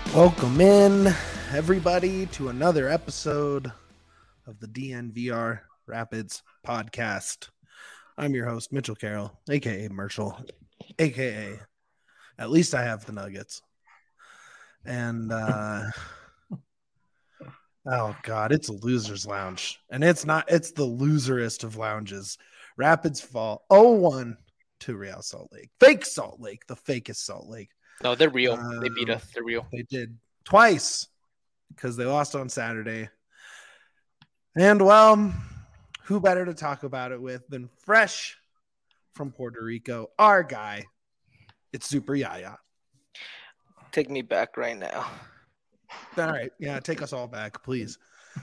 Welcome in, everybody, to another episode of the DNVR Rapids podcast. I'm your host, Mitchell Carroll, a.k.a. Merschel, a.k.a. At least I have the Nuggets. And, oh, God, it's a loser's lounge. And it's the loserest of lounges. Rapids fall 0-1 to Real Salt Lake. Fake Salt Lake, the fakest Salt Lake. No, they're real. They beat us. They're real. They did twice because they lost on Saturday. And, well, who better to talk about it with than fresh from Puerto Rico, our guy. It's Super Yaya. Take me back right now. All right. Yeah, take us all back, please.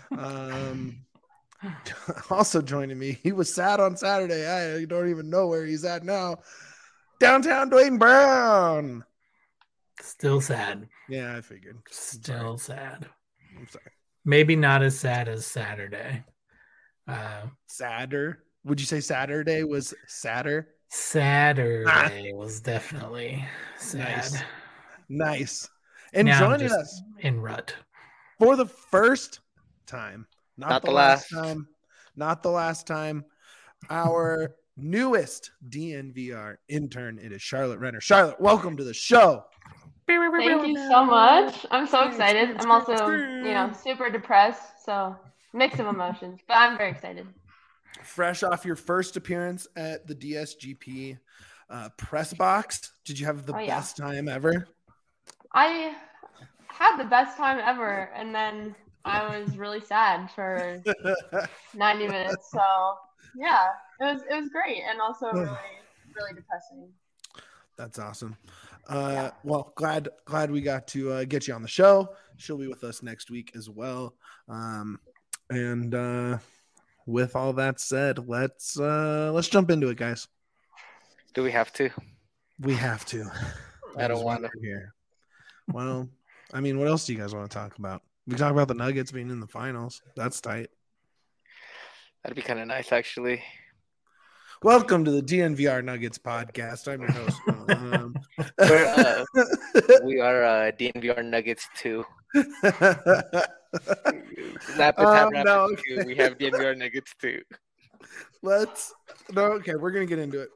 Also joining me, he was sad on Saturday. I don't even know where he's at now. Downtown Dwayne Brown. Still sad. Yeah, I figured. Still sad. I'm sorry. Maybe not as sad as Saturday. Sadder? Would you say Saturday was sadder? Saturday was definitely sad. Nice. And now joining us in rut for the first time, not the last time, our newest DNVR intern. It is Charlotte Renner. Charlotte, welcome to the show. Thank you so much. I'm so excited. I'm also, super depressed. So mix of emotions, but I'm very excited. Fresh off your first appearance at the DSGP press box, did you have the best time ever? I had the best time ever, and then I was really sad for 90 minutes. So yeah, it was great, and also really depressing. That's awesome. Well, glad we got to get you on the show. She'll be with us next week as well. And with all that said, let's jump into it, guys. Do we have to? We have to. I don't want to hear. Well, I mean, what else do you guys want to talk about? We talk about the Nuggets being in the finals. That's tight. That'd be kind of nice, actually. Welcome to the DNVR Nuggets podcast. I'm your host. We are DNVR Nuggets 2. Okay. We have DNVR Nuggets 2. We're gonna get into it.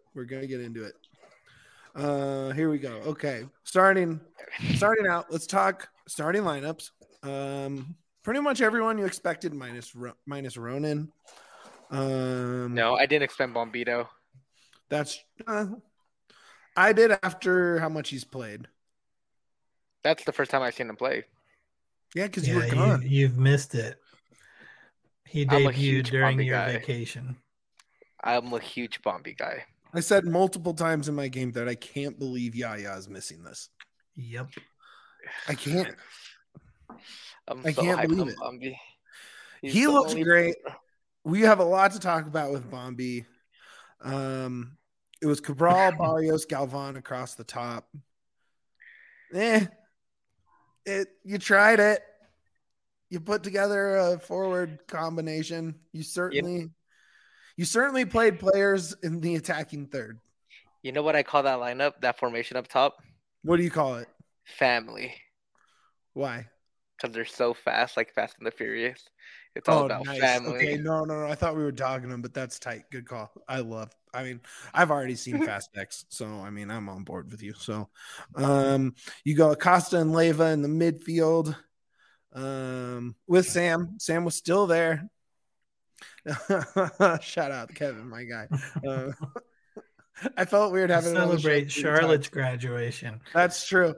Here we go. Okay, starting out. Let's talk starting lineups. Pretty much everyone you expected minus Ronan. No, I didn't expect Bombito. That's I did after how much he's played. That's the first time I've seen him play. Yeah, because you were gone. You've missed it. He debuted during your vacation. I'm a huge Bombi guy. I said multiple times in my game that I can't believe Yaya is missing this. Yep. I can't. I can't believe it. Bombi. He looks great. We have a lot to talk about with Bombi. It was Cabral, Barrios, Galvan across the top. You tried it. You put together a forward combination. You certainly played players in the attacking third. You know what I call that lineup, that formation up top? What do you call it? Family. Why? Because they're so fast, like Fast and the Furious. It's all about family. Okay, no. I thought we were dogging them, but that's tight. Good call. I've already seen Fast X, so I'm on board with you. So, you go Acosta and Leyva in the midfield, with Sam. Sam was still there. Shout out Kevin, my guy. I felt weird having celebrate Charlotte's graduation. That's true.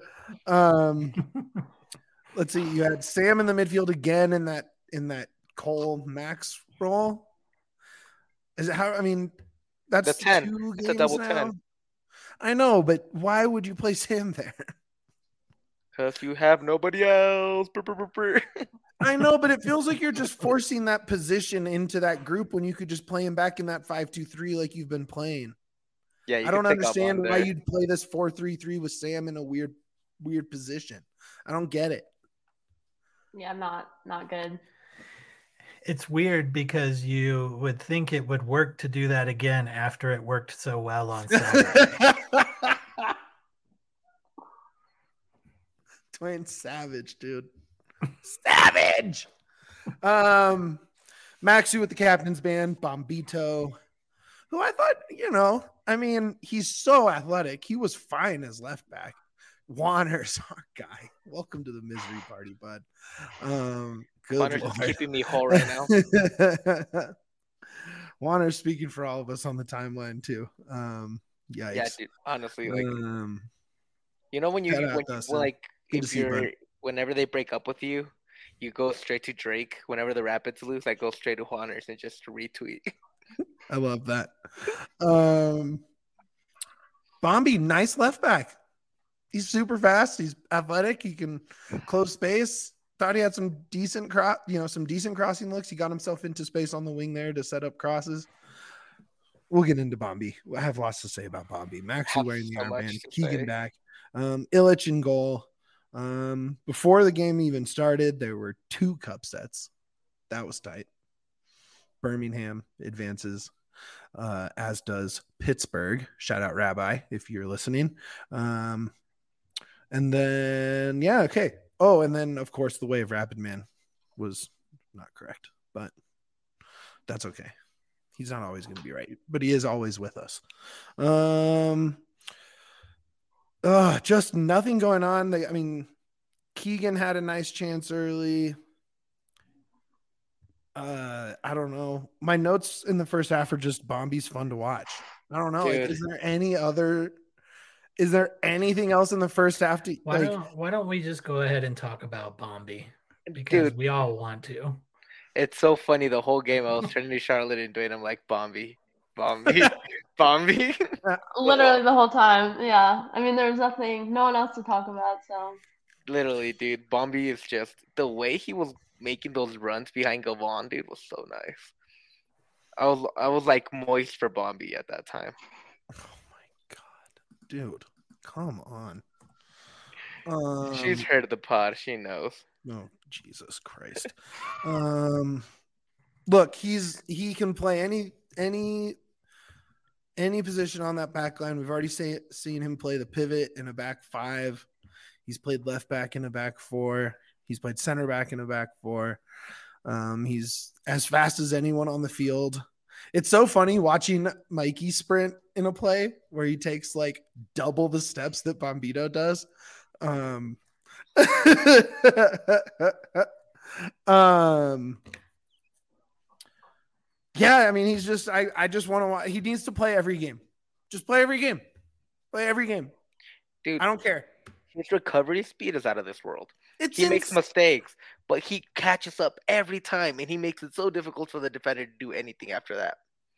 Let's see. You had Sam in the midfield again in that Cole Max role. Is it how? That's the 10. 2 games it's a double now. 10. I know, but why would you play Sam there? Because you have nobody else. I know, but it feels like you're just forcing that position into that group when you could just play him back in that 5-2-3 like you've been playing. Yeah, I don't understand why you'd play this 4-3-3 with Sam in a weird position. I don't get it. Yeah, not good. It's weird because you would think it would work to do that again after it worked so well on Saturday. playing savage, dude. Savage. Maxu with the captain's band, Bombito, who I thought, I mean, he's so athletic. He was fine as left back. Wanner's our guy. Welcome to the misery party, bud. Wanner's just keeping me whole right now. Wanner's speaking for all of us on the timeline too. Yikes. Yeah, dude. Honestly, like, whenever they break up with you, you go straight to Drake. Whenever the Rapids lose, I go straight to Wanner's and just retweet. I love that. Bombi, nice left back. He's super fast. He's athletic. He can close space. Thought he had some decent crossing looks. He got himself into space on the wing there to set up crosses. We'll get into Bombi. I have lots to say about Bombi. Maxi wearing the armband. Keegan back. Illich in goal. Before the game even started, there were 2 cup sets. That was tight. Birmingham advances, as does Pittsburgh. Shout out Rabbi if you're listening. And then, okay. Oh, and then, of course, the way of Rapid Man was not correct, but that's okay. He's not always going to be right, but he is always with us. Just nothing going on. Keegan had a nice chance early. I don't know. My notes in the first half are just Bombi's fun to watch. I don't know. Like, is there anything else in the first half? Why don't we just go ahead and talk about Bombi? Because we all want to. It's so funny. The whole game, I was turning to Charlotte and Dwayne. I'm like, Bombi. Bombi. Literally the whole time. Yeah. I mean, there's no one else to talk about. So. Literally, dude. Bombi is just the way he was making those runs behind Gavon, dude, was so nice. I was like moist for Bombi at that time. Oh my god, dude, come on. She's heard of the pod. She knows. Oh, Jesus Christ. Look, he can play any position on that back line. We've already seen him play the pivot in a back 5. He's played left back in a back 4. He's played center back in a back 4. He's as fast as anyone on the field. It's so funny watching Mikey sprint in a play where he takes like double the steps that Bombito does. Yeah, I mean, he's just, I just want to watch. He needs to play every game. Just play every game. Play every game. Dude, I don't care. His recovery speed is out of this world. He makes mistakes, but he catches up every time, and he makes it so difficult for the defender to do anything after that.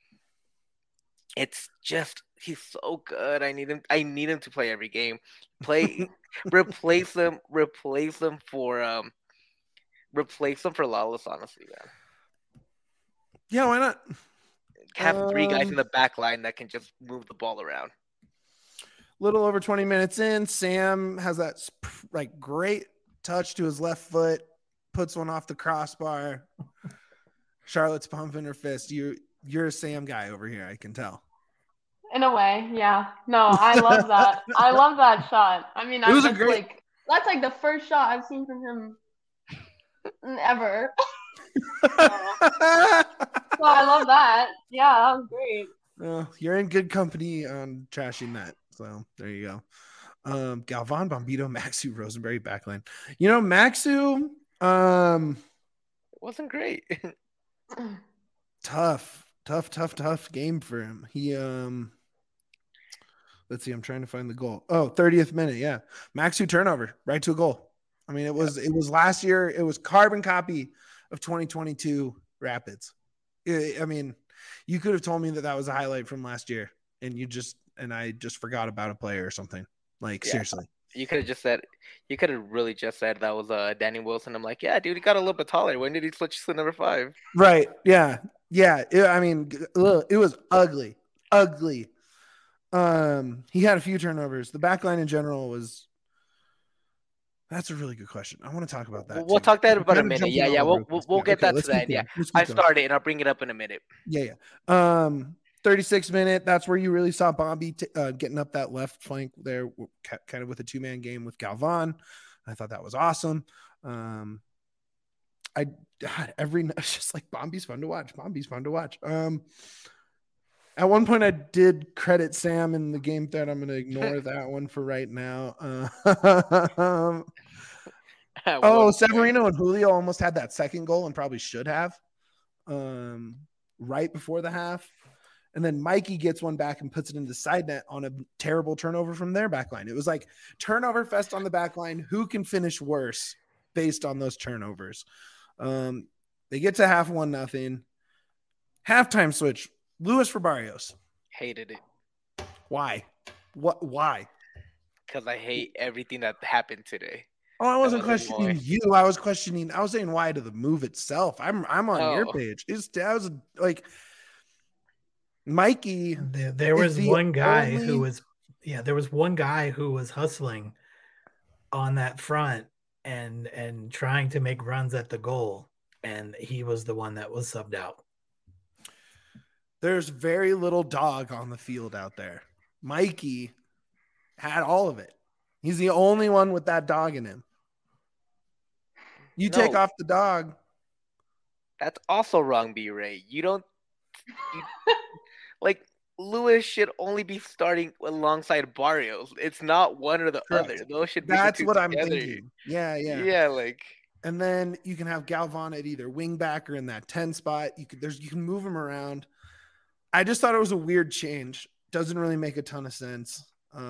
It's just, he's so good. I need him to play every game. Replace them for Lawless, honestly, man. Yeah, why not? Have 3 guys in the back line that can just move the ball around. Little over 20 minutes in, Sam has that like great touch to his left foot, puts one off the crossbar. Charlotte's pumping her fist. You're a Sam guy over here, I can tell. In a way, yeah. No, I love that. I love that shot. I mean, that's like the first shot I've seen from him ever. So I love that. Yeah, that was great. You're in good company on trashing that. So there you go. Galvan, Bombito, Maxu, Rosenberry backline. Maxu it wasn't great. Tough game for him. He let's see, I'm trying to find the goal. 30th minute, yeah. Maxu turnover, right to a goal. I mean, it was last year, it was carbon copy of 2022 Rapids. I mean, you could have told me that was a highlight from last year, and I just forgot about a player or something. Like, seriously. You could have really just said that was Danny Wilson. I'm like, yeah, dude, he got a little bit taller. When did he switch to number 5? Right. Yeah. Yeah. I mean, it was ugly. He had a few turnovers. The back line in general that's a really good question. I want to talk about that. We'll talk that about a minute. Yeah. We'll get that to that. Yeah. I started and I'll bring it up in a minute. Yeah. 36 minute. That's where you really saw Bombi getting up that left flank there, kind of with a 2-man game with Galvan. I thought that was awesome. It's just like Bombi's fun to watch. At one point, I did credit Sam in the game thread. I'm going to ignore that one for right now. Severino and Julio almost had that second goal and probably should have right before the half. And then Mikey gets one back and puts it into the side net on a terrible turnover from their back line. It was like turnover fest on the back line. Who can finish worse based on those turnovers? They get to half 1-0. Halftime switch. Luis for Barrios. Hated it. Why? Why? Because I hate everything that happened today. Oh, I wasn't questioning you. I was saying why to the move itself. I'm on your page. I was like Mikey. There was one guy who was hustling on that front and trying to make runs at the goal, and he was the one that was subbed out. There's very little dog on the field out there. Mikey had all of it. He's the only one with that dog in him. You take off the dog. That's also wrong, B-Ray. Like Luis should only be starting alongside Barrios. It's not one or the other. Those should be That's what together. I'm thinking. Yeah. Yeah, like. And then you can have Galvan at either wing back or in that 10 spot. You can move him around. I just thought it was a weird change. Doesn't really make a ton of sense.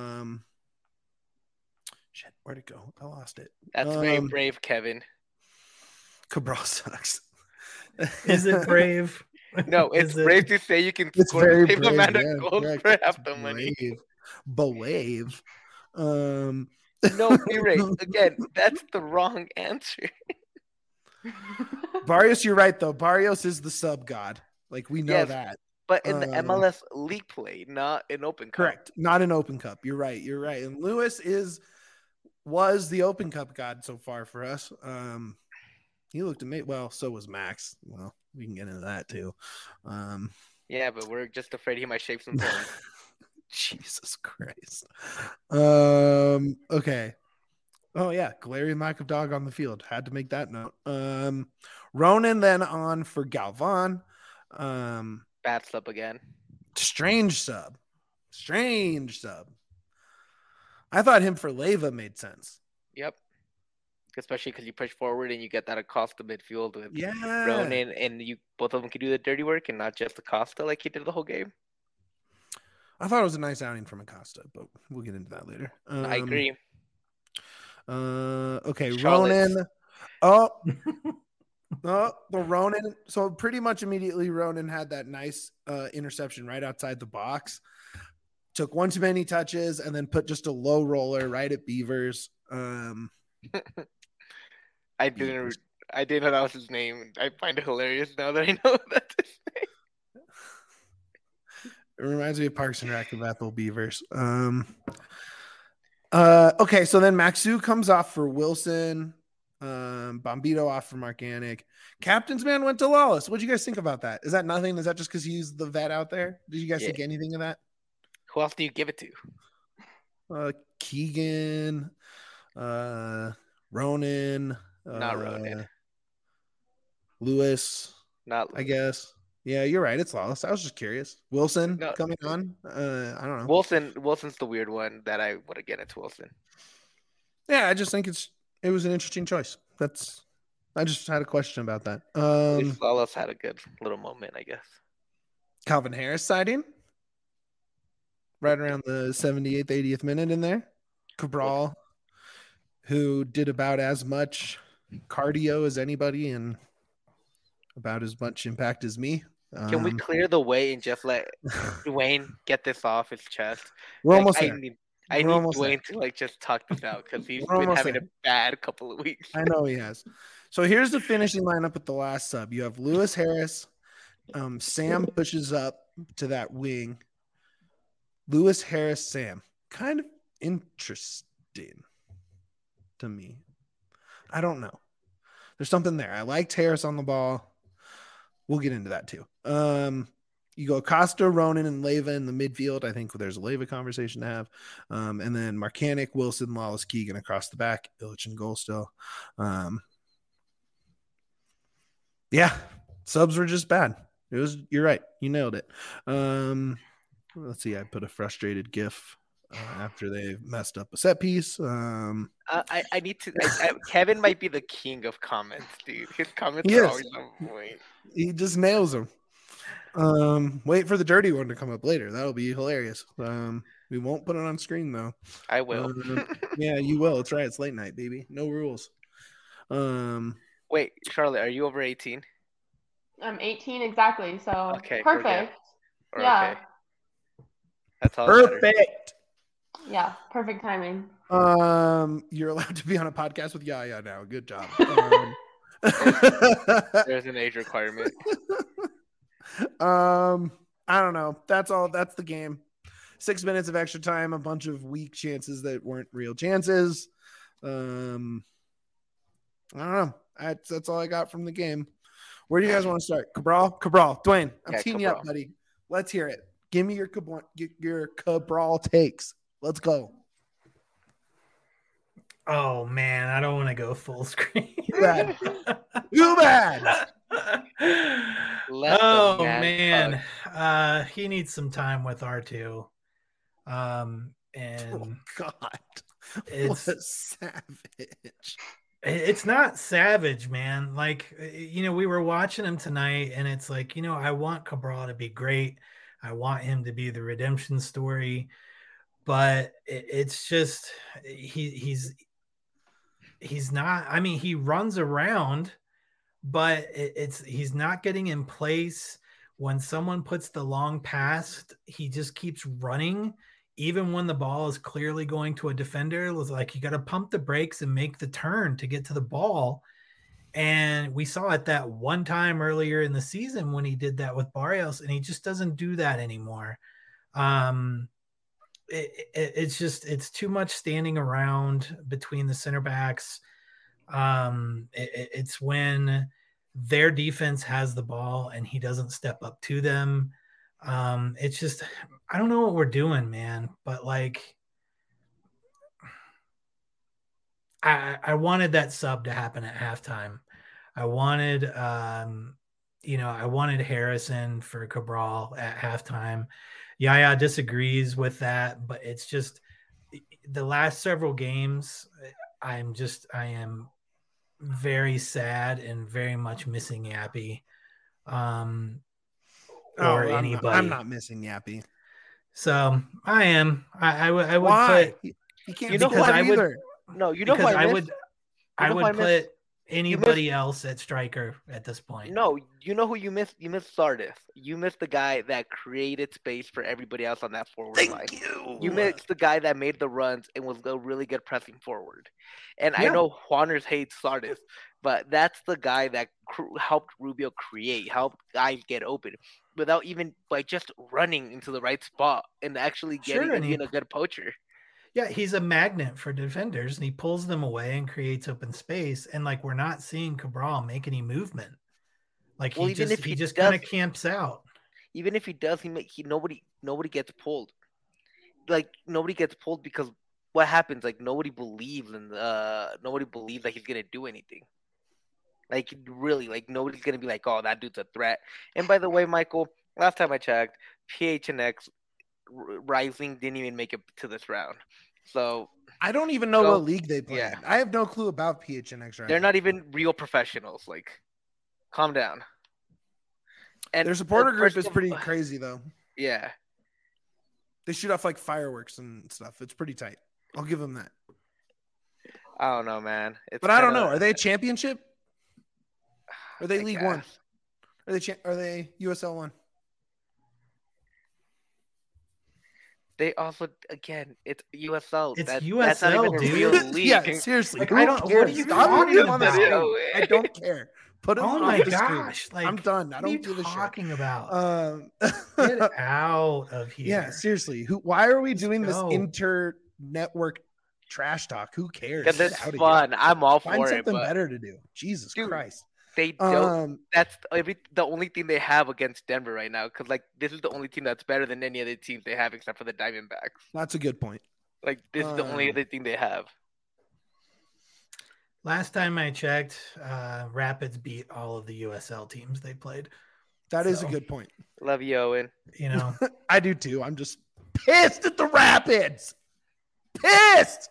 Shit, where'd it go? I lost it. That's very brave, Kevin. Cabral sucks. Is it brave? No, it's brave to say you can score the same amount of goals for half the money. Brave. No, B-Ray, again, that's the wrong answer. Barrios, you're right, though. Barrios is the sub god. Like, we know that. But in the MLS League play, not in Open Cup. Correct. Not in Open Cup. You're right. And Luis was the Open Cup god so far for us. He looked amazing. Well, so was Max. Well, we can get into that too. Yeah, but we're just afraid he might shape some bones. Jesus Christ. Okay. Oh yeah, glaring lack of dog on the field. Had to make that note. Ronan then on for Galvan. Bad sub again. Strange sub. I thought him for Leyva made sense. Yep. Especially because you push forward and you get that Acosta midfield with Ronan, and both of them can do the dirty work and not just Acosta like he did the whole game. I thought it was a nice outing from Acosta, but we'll get into that later. I agree. Okay, Charlotte's. Ronan. The Ronan. So pretty much immediately, Ronan had that nice interception right outside the box. Took one too many touches and then put just a low roller right at Beavers. I didn't know that was his name. I find it hilarious now that I know that's his name. It reminds me of Parks and Rec of Ethel Beavers. Okay, so then Maxu comes off for Wilson. Bombito off for Mark Anik. Captain's man went to Lawless. What'd you guys think about that? Is that nothing? Is that just because he's the vet out there? Did you guys think anything of that? Who else do you give it to? Keegan, Ronan. Not Ronan. Lewis. Not Lewis. I guess. Yeah, you're right. It's Lawless. I was just curious. Wilson coming on. I don't know. Wilson's the weird one that I would have given it to Wilson. Yeah, I just think it was an interesting choice. I just had a question about that. Lawless had a good little moment, I guess. Calvin Harris sighting. Right around the 78th, 80th minute in there. Cabral, who did about as much cardio as anybody and about as much impact as me. Can we clear the way and just let Dwayne get this off his chest? We're almost there. I need Dwayne to just talk this out because he's been having a bad couple of weeks. I know he has. So here's the finishing lineup with the last sub. You have Lewis Harris. Sam pushes up to that wing. Lewis Harris, Sam. Kind of interesting to me. I don't know. There's something there. I liked Harris on the ball. We'll get into that too. You go Costa, Ronan, and Leyva in the midfield. I think there's a Leyva conversation to have. And then Marcanic, Wilson, Lawless, Keegan across the back. Illich in goal still. Yeah, subs were just bad. You're right. You nailed it. Let's see. I put a frustrated GIF after they messed up a set piece. I need to. Kevin might be the king of comments, dude. His comments are always on point. He just nails them. Wait for the dirty one to come up later. That'll be hilarious. We won't put it on screen though. I will. Yeah, you will. It's right. It's late night, baby. No rules. Wait, Charlotte, are you over 18? I'm 18 exactly. So okay, perfect. Yeah. Okay. That's all. Perfect. Yeah, perfect timing. You're allowed to be on a podcast with Yaya now. Good job. There's an age requirement. I don't know. That's all. That's the game. 6 minutes of extra time, a bunch of weak chances that weren't real chances. I don't know. That's all I got from the game. Where do you guys want to start? Cabral, Dwayne, I'm teeing you up, buddy. Let's hear it. Give me your Cabral takes. Let's go. Oh man, I don't want to go full screen. Too bad. Too bad. Oh man, he needs some time with R2. And oh God, it's what a savage. It's not savage, man. Like, we were watching him tonight, and it's like, I want Cabral to be great. I want him to be the redemption story, but it's just he's not. I mean, he runs around, but he's not getting in place. When someone puts the long pass, he just keeps running. Even when the ball is clearly going to a defender, it was like you got to pump the brakes and make the turn to get to the ball. And we saw it that one time earlier in the season when he did that with Barrios, and he just doesn't do that anymore. It's too much standing around between the center backs. It's when their defense has the ball and he doesn't step up to them. It's just, I don't know what we're doing, man, but like, I wanted that sub to happen at halftime. I wanted, I wanted Harrison for Cabral at halftime. Yaya disagrees with that, but it's just the last several games. I am very sad and very much missing Yappy. Or anybody. I'm not missing Yappy. So I am. I would Why? put. You can't because I would either. No, you know what I would. I would put anybody else at striker at this point. No, you know who you missed? You missed Sardis. You missed the guy that created space for everybody else on that forward line. Thank you. You missed the guy that made the runs and was a really good pressing forward. And I know Juaners hates Sardis, but that's the guy that helped Rubio create, helped guys get open without even by just running into the right spot and actually being a good poacher. Yeah, he's a magnet for defenders, and he pulls them away and creates open space. And like, we're not seeing Cabral make any movement. Like, he just kind of camps out. Even if he does, nobody gets pulled. Like, nobody gets pulled because what happens? Like, nobody believes that he's gonna do anything. Like, really, like nobody's gonna be like, oh, that dude's a threat. And by the way, Michael, last time I checked, PHNX Rising didn't even make it to this round. So I don't even know what league they play. Yeah. I have no clue about PHNX Rising. They're not even real professionals. Like, calm down. And their supporter group is pretty crazy, though. Yeah. They shoot off like fireworks and stuff. It's pretty tight. I'll give them that. I don't know, man. But I don't know. Are they a championship? Are they League One? Are they USL 1? They also, again, it's USL. It's USL, USL, that's not even dude. a real league. Yeah, seriously. Like, Who I don't. cares? What are you Stop talking putting them on the about? screen. I don't care. Put them Oh on my the gosh! screen. Like, I'm done. I what are you don't give a shit. talking about? Get out of here. Yeah, seriously. Why are we doing go. this inter-network trash talk? Who cares? Because it's Get out of fun. here. I'm all Find for it. something But better to do. Jesus Dude, Christ. They don't. That's the only thing they have against Denver right now. Because like this is the only team that's better than any other teams they have except for the Diamondbacks. That's a good point. Like this is the only other thing they have. Last time I checked, Rapids beat all of the USL teams they played. That is a good point. Love you, Owen. You know, I do too. I'm just pissed at the Rapids. Pissed.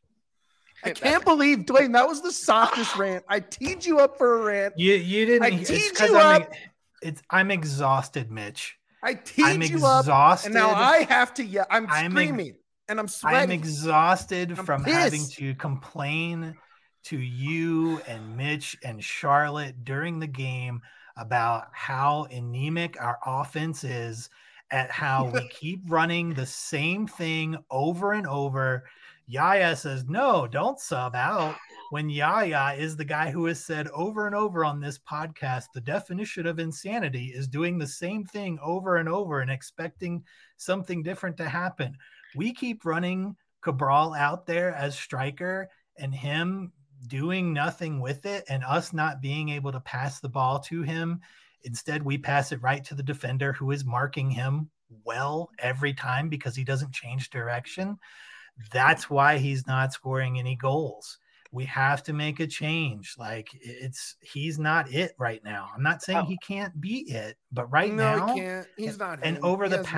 I can't believe, Dwayne, that was the softest rant. I teed you up for a rant. You didn't. I teed you up. I'm exhausted, Mitch. I teed you up, and now I have to yell. I'm screaming, and I'm sweating. I'm exhausted from having to complain to you and Mitch and Charlotte during the game about how anemic our offense is, at how we keep running the same thing over and over. Yaya says, no, don't sub out. When Yaya is the guy who has said over and over on this podcast, the definition of insanity is doing the same thing over and over and expecting something different to happen. We keep running Cabral out there as striker and him doing nothing with it and us not being able to pass the ball to him. Instead, we pass it right to the defender who is marking him well every time because he doesn't change direction. That's why he's not scoring any goals. We have to make a change. Like he's not it right now. I'm not saying he can't be it, but now he can't. He's not. And over the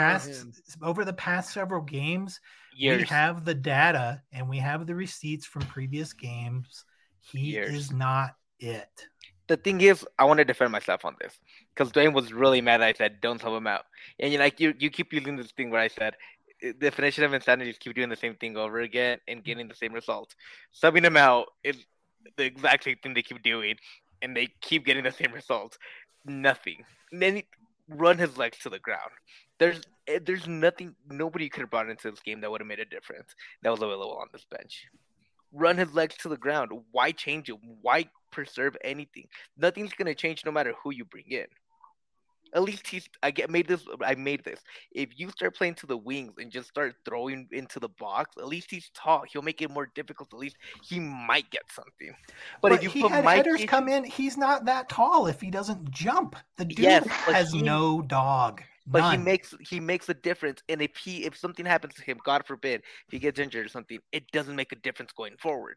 past several games, we have the data and we have the receipts from previous games. He is not it. The thing is, I want to defend myself on this because Dwayne was really mad that I said don't sub him out, and you keep using this thing where I said definition of insanity is keep doing the same thing over again and getting the same result. Subbing him out is the exact same thing they keep doing, and they keep getting the same results. Nothing. And then run his legs to the ground. There's nothing. Nobody could have brought into this game that would have made a difference that was available on this bench. Run his legs to the ground. Why change it? Why preserve anything? Nothing's gonna change no matter who you bring in. At least I made this. If you start playing to the wings and just start throwing into the box, at least he's tall. He'll make it more difficult. At least he might get something. But if you put headers come in, he's not that tall. If he doesn't jump, the dude has no dog. But None. he makes a difference. And if something happens to him, God forbid, if he gets injured or something, it doesn't make a difference going forward.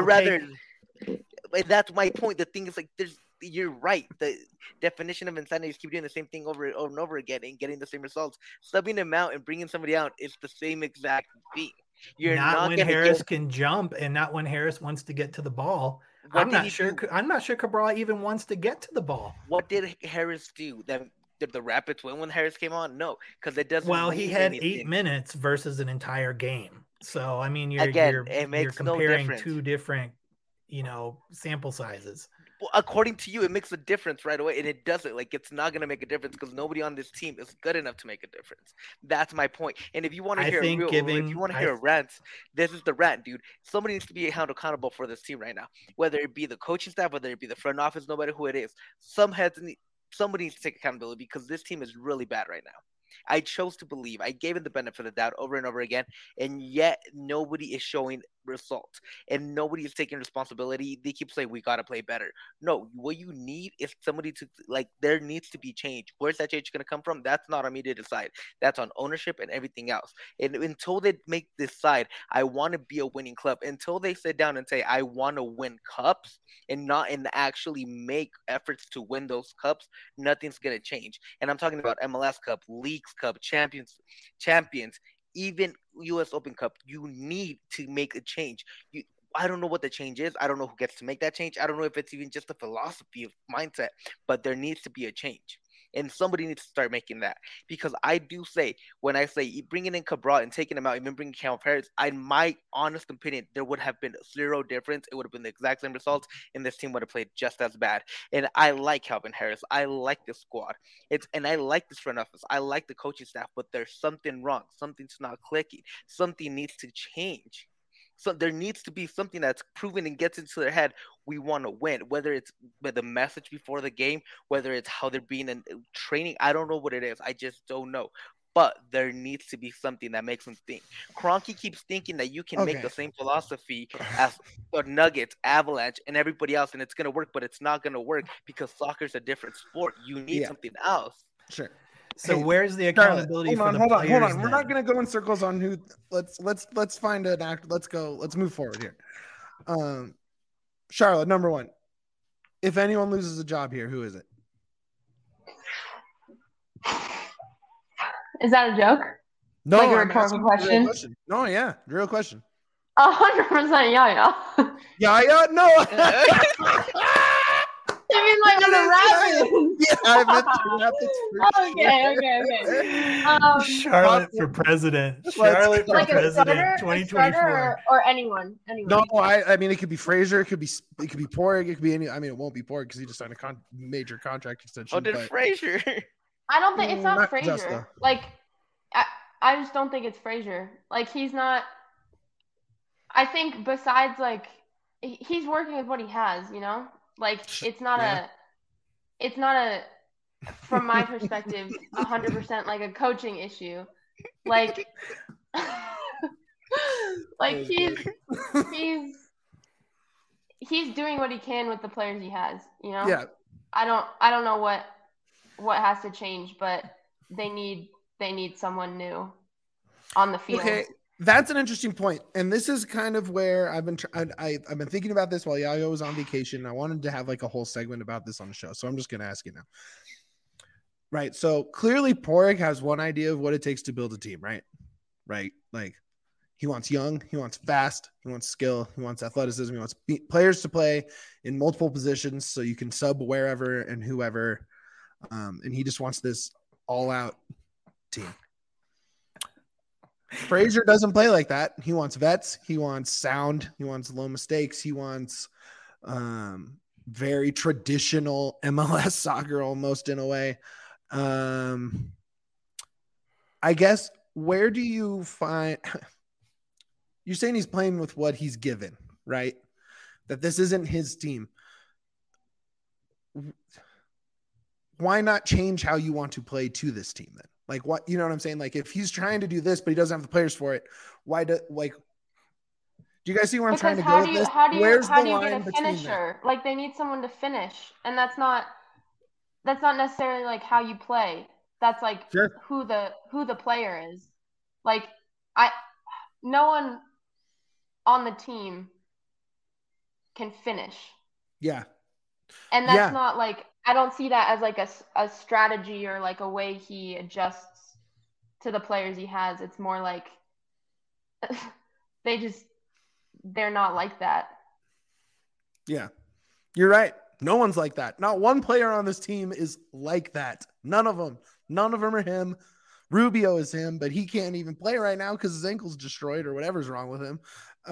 That's my point. The thing is, like, you're right. The definition of insanity is keep doing the same thing over and over again and getting the same results. Subbing him out and bringing somebody out is the same exact thing. You're not when Harris can jump and not when Harris wants to get to the ball. I'm not sure Cabral even wants to get to the ball. What did Harris do? Did the Rapids win when Harris came on? No, because it doesn't. Well, he had 8 minutes versus an entire game. So I mean, you're comparing two different, sample sizes. Well, according to you, it makes a difference right away, and it doesn't. Like, it's not going to make a difference because nobody on this team is good enough to make a difference. That's my point. And if you want to hear a rant, this is the rant, dude. Somebody needs to be held accountable for this team right now, whether it be the coaching staff, whether it be the front office, no matter who it is. Somebody needs to take accountability because this team is really bad right now. I chose to believe. I gave it the benefit of the doubt over and over again, and yet nobody is showing results, and nobody is taking responsibility. They keep saying, we got to play better. No, what you need is somebody to, there needs to be change. Where's that change going to come from? That's not on me to decide. That's on ownership and everything else. And until they make this side, I want to be a winning club. Until they sit down and say, I want to win cups and actually make efforts to win those cups, nothing's going to change. And I'm talking about MLS Cup, Leagues Cup, Champions, even U.S. Open Cup. You need to make a change. I don't know what the change is. I don't know who gets to make that change. I don't know if it's even just a philosophy of mindset, but there needs to be a change. And somebody needs to start making that. Because I do say, when I say bringing in Cabral and taking him out, even bringing Calvin Harris, in my honest opinion, there would have been zero difference. It would have been the exact same results, and this team would have played just as bad. And I like Calvin Harris. I like the squad. And I like this front office. I like the coaching staff, but there's something wrong. Something's not clicking. Something needs to change. So there needs to be something that's proven and gets into their head. We want to win, whether it's the message before the game, whether it's how they're being in training. I don't know what it is. I just don't know. but there needs to be something that makes him think. Kroenke keeps thinking that you can make the same philosophy as the Nuggets, Avalanche, and everybody else, and it's gonna work, but it's not gonna work because soccer's a different sport. You need something else. Sure. So where's the accountability for the players? Hold on. We're not going to go in circles on who. Let's find an actor. Let's go. Let's move forward here. Charlotte, number one. If anyone loses a job here, who is it? Is that a joke? No, like a I'm rhetorical question? No, yeah, real question. 100% Yaya. Yaya? No. I mean, like on the Rapids. Yeah, I meant the Rapids. Okay. Charlotte for president. Charlotte for like president. 2024. Or anyone. No, I mean it could be Frazier. It could be Porig. It could be any. I mean, it won't be Porig because he just signed a major contract extension. Oh, did Frazier? I don't think it's not Frazier. Justa. Like, I just don't think it's Frazier. Like, he's not. I think besides like, he's working with what he has. You know. Like it's not a from my perspective 100% like a coaching issue. Like he's doing what he can with the players he has, you know? Yeah. I don't know what has to change, but they need someone new on the field. Okay. That's an interesting point, and this is kind of where I've been thinking about this while Yaya was on vacation. I wanted to have like a whole segment about this on the show, so I'm just going to ask you now. Right, so clearly Porig has one idea of what it takes to build a team, right? Right, like he wants young, he wants fast, he wants skill, he wants athleticism, he wants players to play in multiple positions so you can sub wherever and whoever, and he just wants this all-out team. Frazier doesn't play like that. He wants vets. He wants sound. He wants low mistakes. He wants very traditional MLS soccer almost in a way. I guess where do you find – you're saying he's playing with what he's given, right? That this isn't his team. Why not change how you want to play to this team then? Like what, you know what I'm saying? Like if he's trying to do this, but he doesn't have the players for it, do you guys see where I'm trying to go with this? How do you get a finisher? Like they need someone to finish, and that's not necessarily like how you play. That's like who the player is. Like no one on the team can finish. Yeah. And that's not like, I don't see that as like a strategy or like a way he adjusts to the players he has. It's more like they're not like that. Yeah, you're right. No one's like that. Not one player on this team is like that. None of them are him. Rubio is him, but he can't even play right now because his ankle's destroyed or whatever's wrong with him.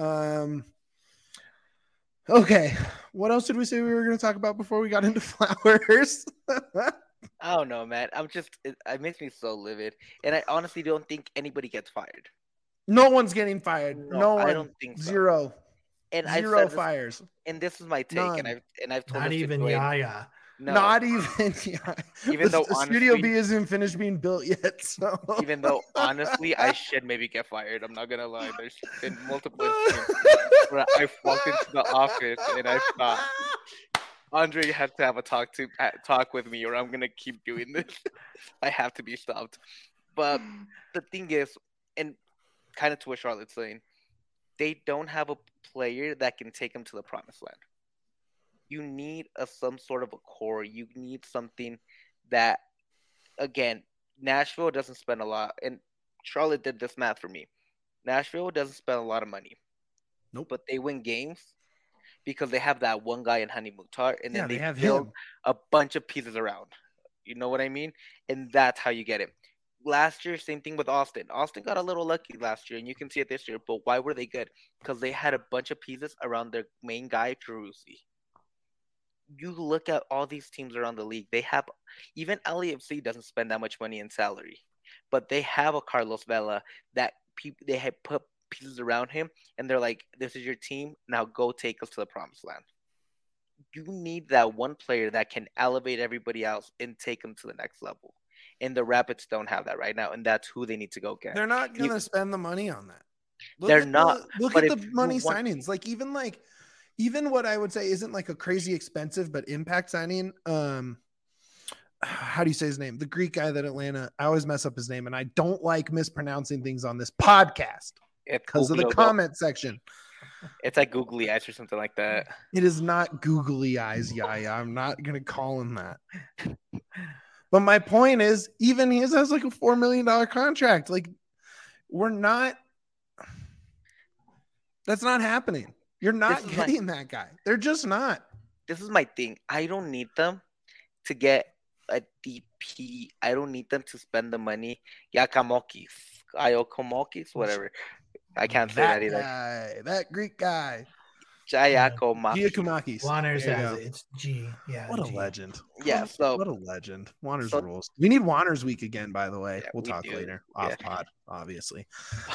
Okay, what else did we say we were going to talk about before we got into Flowers? I don't know, man. It makes me so livid, and I honestly don't think anybody gets fired. No one's getting fired. No one. I don't think so. Zero. And Zero fires. And this is my take. None. And I've told not even Yaya. No. Not even. Yeah. Even though the Studio B isn't finished being built yet. So. Even though honestly, I should maybe get fired. I'm not gonna lie. There's been multiple instances where I've walked into the office and I thought Andre has to have a talk with me, or I'm gonna keep doing this. I have to be stopped. But the thing is, and kind of to what Charlotte's saying, they don't have a player that can take them to the promised land. You need some sort of a core. You need something that, again, Nashville doesn't spend a lot. And Charlotte did this math for me. Nashville doesn't spend a lot of money. Nope. But they win games because they have that one guy in Hani Mukhtar. And then they have build him. A bunch of pieces around. You know what I mean? And that's how you get it. Last year, same thing with Austin. Austin got a little lucky last year, and you can see it this year. But why were they good? Because they had a bunch of pieces around their main guy, Peruzzi. You look at all these teams around the league. They have, even LAFC doesn't spend that much money in salary, but they have a Carlos Vela that they have put pieces around him, and they're like, "This is your team. Now go take us to the promised land." You need that one player that can elevate everybody else and take them to the next level. and the Rapids don't have that right now, and that's who they need to go get. They're not going to spend the money on that. They're not. Look but at if the you money want- signings. Even what I would say isn't like a crazy expensive but impact signing. How do you say his name? The Greek guy that Atlanta. I always mess up his name, and I don't like mispronouncing things on this podcast It's because of the googly- comment section. It's like googly eyes or something like that. It is not googly eyes, Yaya. I'm not going to call him that. But my point is, even he has like a $4 million contract. Like, we're not. That's not happening. You're not getting that guy. They're just not. This is my thing. I don't need them to get a DP. I don't need them to spend the money. Iakomokis, whatever. I can't say that either. Guy, that Greek guy. Giacomakis. Wanners There you has go. it. It's G. Yeah. What a G. legend. Yeah, so What a legend. Wanners So- rules. We need Wanners week again, by the way. Yeah, we'll we talk do. later. Yeah. Off pod, obviously.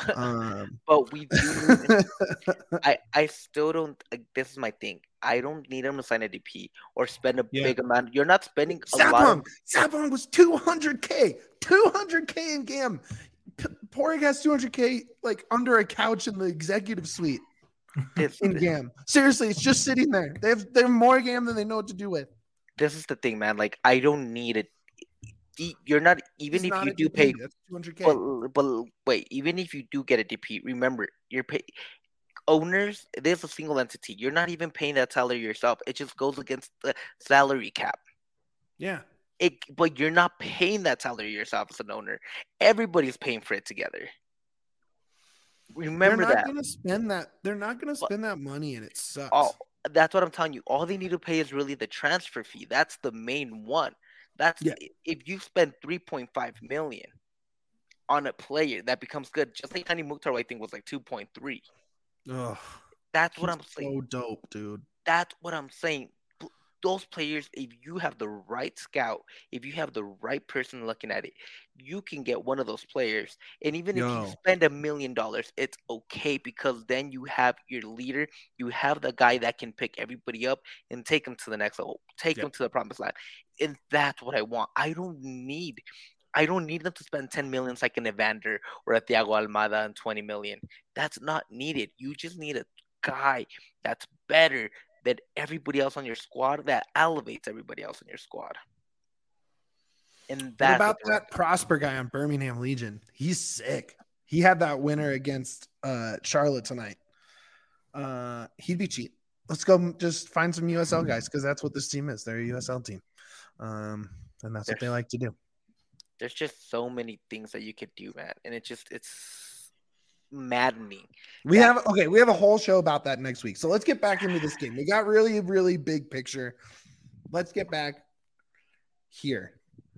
but we do. I still don't. This is my thing. I don't need them to sign a DP or spend a Yeah. big amount. You're not spending a lot. Sapong was 200K. 200K in GAM. Porig has 200K like under a couch in the executive suite in GAM. Seriously, it's just sitting there. They have more GAM than they know what to do with. This is the thing, man. Like I don't need it. You're not even It's if not you a do DP, pay. that's 200K. But wait, even if you do get a DP, remember you're pay owners. There's a single entity. You're not even paying that salary yourself. It just goes against the salary cap. Yeah. But you're not paying that salary yourself as an owner. Everybody's paying for it together. Remember They're not that. gonna spend that. They're not gonna spend that money, and it sucks. Oh, that's what I'm telling you. All they need to pay is really the transfer fee. That's the main one. That's if you spend 3.5 million on a player that becomes good, just like Hani Mukhtar, I think was like 2.3. Ugh, That's what he's I'm saying. so dope, dude. That's what I'm saying. Those players, if you have the right scout, if you have the right person looking at it, you can get one of those players. And even if you spend $1 million, it's okay because then you have your leader, you have the guy that can pick everybody up and take them to the next level, take them to the promised land. And that's what I want. I don't need them to spend 10 million like an Evander or a Thiago Almada and 20 million. That's not needed. You just need a guy that's better than everybody else on your squad, that elevates everybody else on your squad. And that's what about that Prosper guy on Birmingham Legion? He's sick. He had that winner against Charlotte tonight. He'd be cheap. Let's go just find some USL guys because that's what this team is. They're a USL team. And that's what they like to do. There's just so many things that you could do, man. And it's maddening. We have a whole show about that next week. So let's get back into this game. We got really, really big picture. Let's get back here.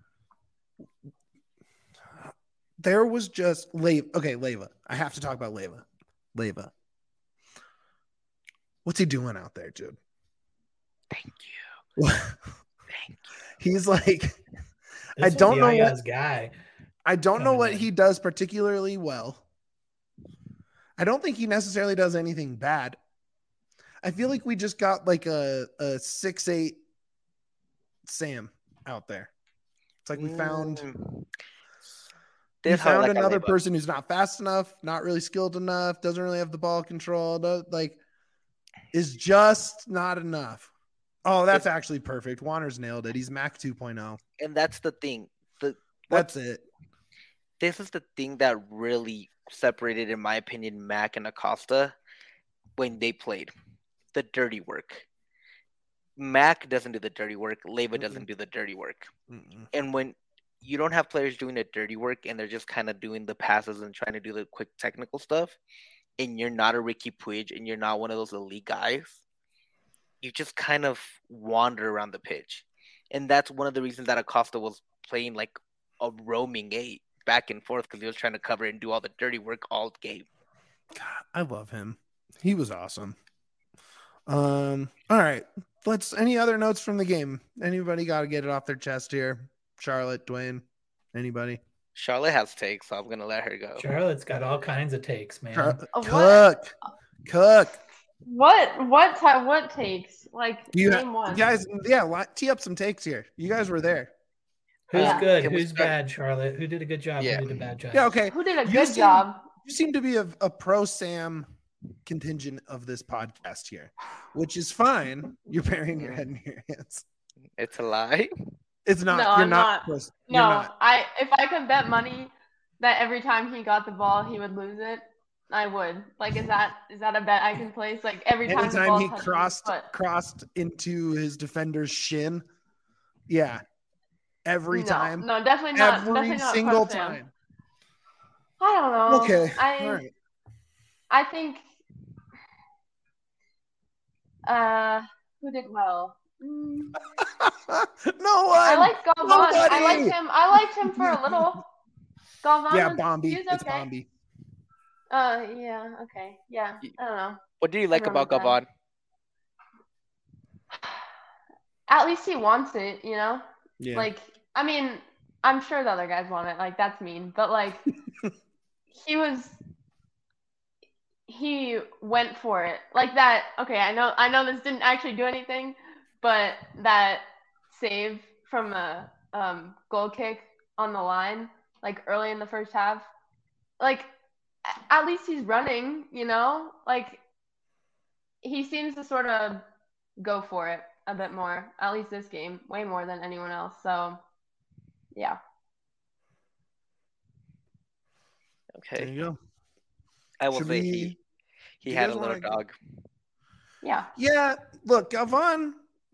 There was just Leyva. I have to talk about Leyva. What's he doing out there, dude? Thank you. Thank you. He's like, I don't know what guy. I don't know what he does particularly well. I don't think he necessarily does anything bad. I feel like we just got like a 6'8" Sam out there. It's like we found another person who's not fast enough, not really skilled enough, doesn't really have the ball control, is just not enough. Oh, that's actually perfect. Warner's nailed it. He's Mac 2.0. And that's the thing. That's it. This is the thing that really separated, in my opinion, Mac and Acosta when they played. The dirty work. Mac doesn't do the dirty work. Leyva doesn't do the dirty work. And when you don't have players doing the dirty work and they're just kind of doing the passes and trying to do the quick technical stuff, and you're not a Ricky Puig and you're not one of those elite guys, you just kind of wander around the pitch. And that's one of the reasons that Acosta was playing like a roaming 8 back and forth, because he was trying to cover and do all the dirty work all game. God, I love him. He was awesome. All right. Any other notes from the game? Anybody got to get it off their chest here? Charlotte, Dwayne, anybody? Charlotte has takes, so I'm going to let her go. Charlotte's got all kinds of takes, man. Cook. What takes? Like, name one. Guys, tee up some takes here. You guys were there. Who's Yeah. good? Can we Who's start- bad, Charlotte? Who did a good job? Yeah. Who did a bad job? Yeah, okay. Who did a You good seem- job? You seem to be a pro Sam contingent of this podcast here, which is fine. You're burying your head in your hands. It's a lie. It's not. No, you're I'm not. not. You're No, not. if I could bet money that every time he got the ball he would lose it, I would. Like, is that a bet I can place? Like every time the Anytime ball he touches his foot. crossed into his defender's shin, yeah, every time, No, definitely not. every Definitely not single pro Sam. time. I don't know. Okay, all right. I think who did well? No one. I like Galvan. Nobody. I liked him for a little. Galvan. Yeah, He Bombi. was It's okay. Bombi. Yeah, okay. Yeah. I don't know. What do you like about Everyone Gavon? At least he wants it, you know? Yeah. Like, I mean, I'm sure the other guys want it. Like, that's mean. But, like, he went for it. Like that. Okay, I know this didn't actually do anything, but that save from a goal kick on the line, like early in the first half, like at least he's running, you know? Like he seems to sort of go for it a bit more, at least this game, way more than anyone else. So, yeah. There Okay. you go. I will Should say we- he you had guys a little wanna- dog. Yeah. Yeah, look, Galvan.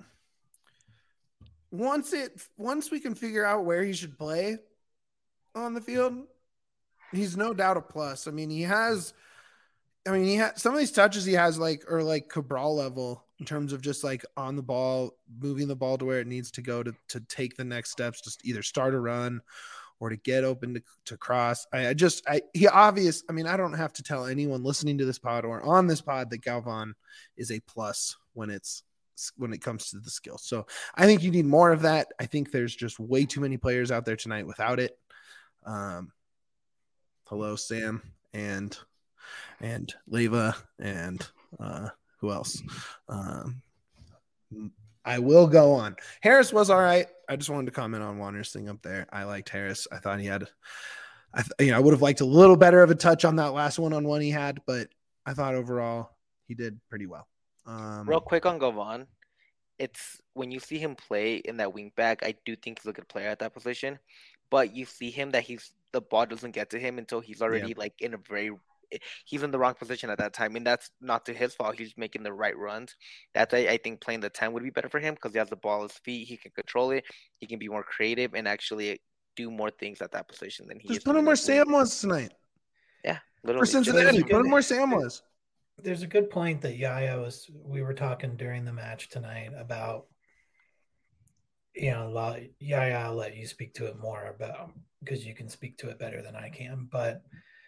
Once we can figure out where he should play on the field, he's no doubt a plus. I mean, he has some of these touches he has are like Cabral level in terms of just like on the ball, moving the ball to where it needs to go to take the next steps, just either start a run or to get open to cross. I mean, I don't have to tell anyone listening to this pod or on this pod that Galvan is a plus when it comes to the skill. So I think you need more of that. I think there's just way too many players out there tonight without it. Hello, Sam and Leva and who else? I will go on. Harris was all right. I just wanted to comment on Wander's thing up there. I liked Harris. I thought he had, I would have liked a little better of a touch on that last one-on-one he had, but I thought overall he did pretty well. Real quick on Gavon, it's when you see him play in that wing back, I do think he's a good player at that position, but you see him that the ball doesn't get to him until he's already like he's in the wrong position at that time, and that's not to his fault. He's making the right runs. That's I think playing the 10 would be better for him because he has the ball at his feet. He can control it. He can be more creative and actually do more things at that position than he just is. put him where Sam was tonight. Yeah, For literally. Cincinnati, put him where Sam was. There's a good point that we were talking during the match tonight about, Yaya, I'll let you speak to it more about because you can speak to it better than I can, but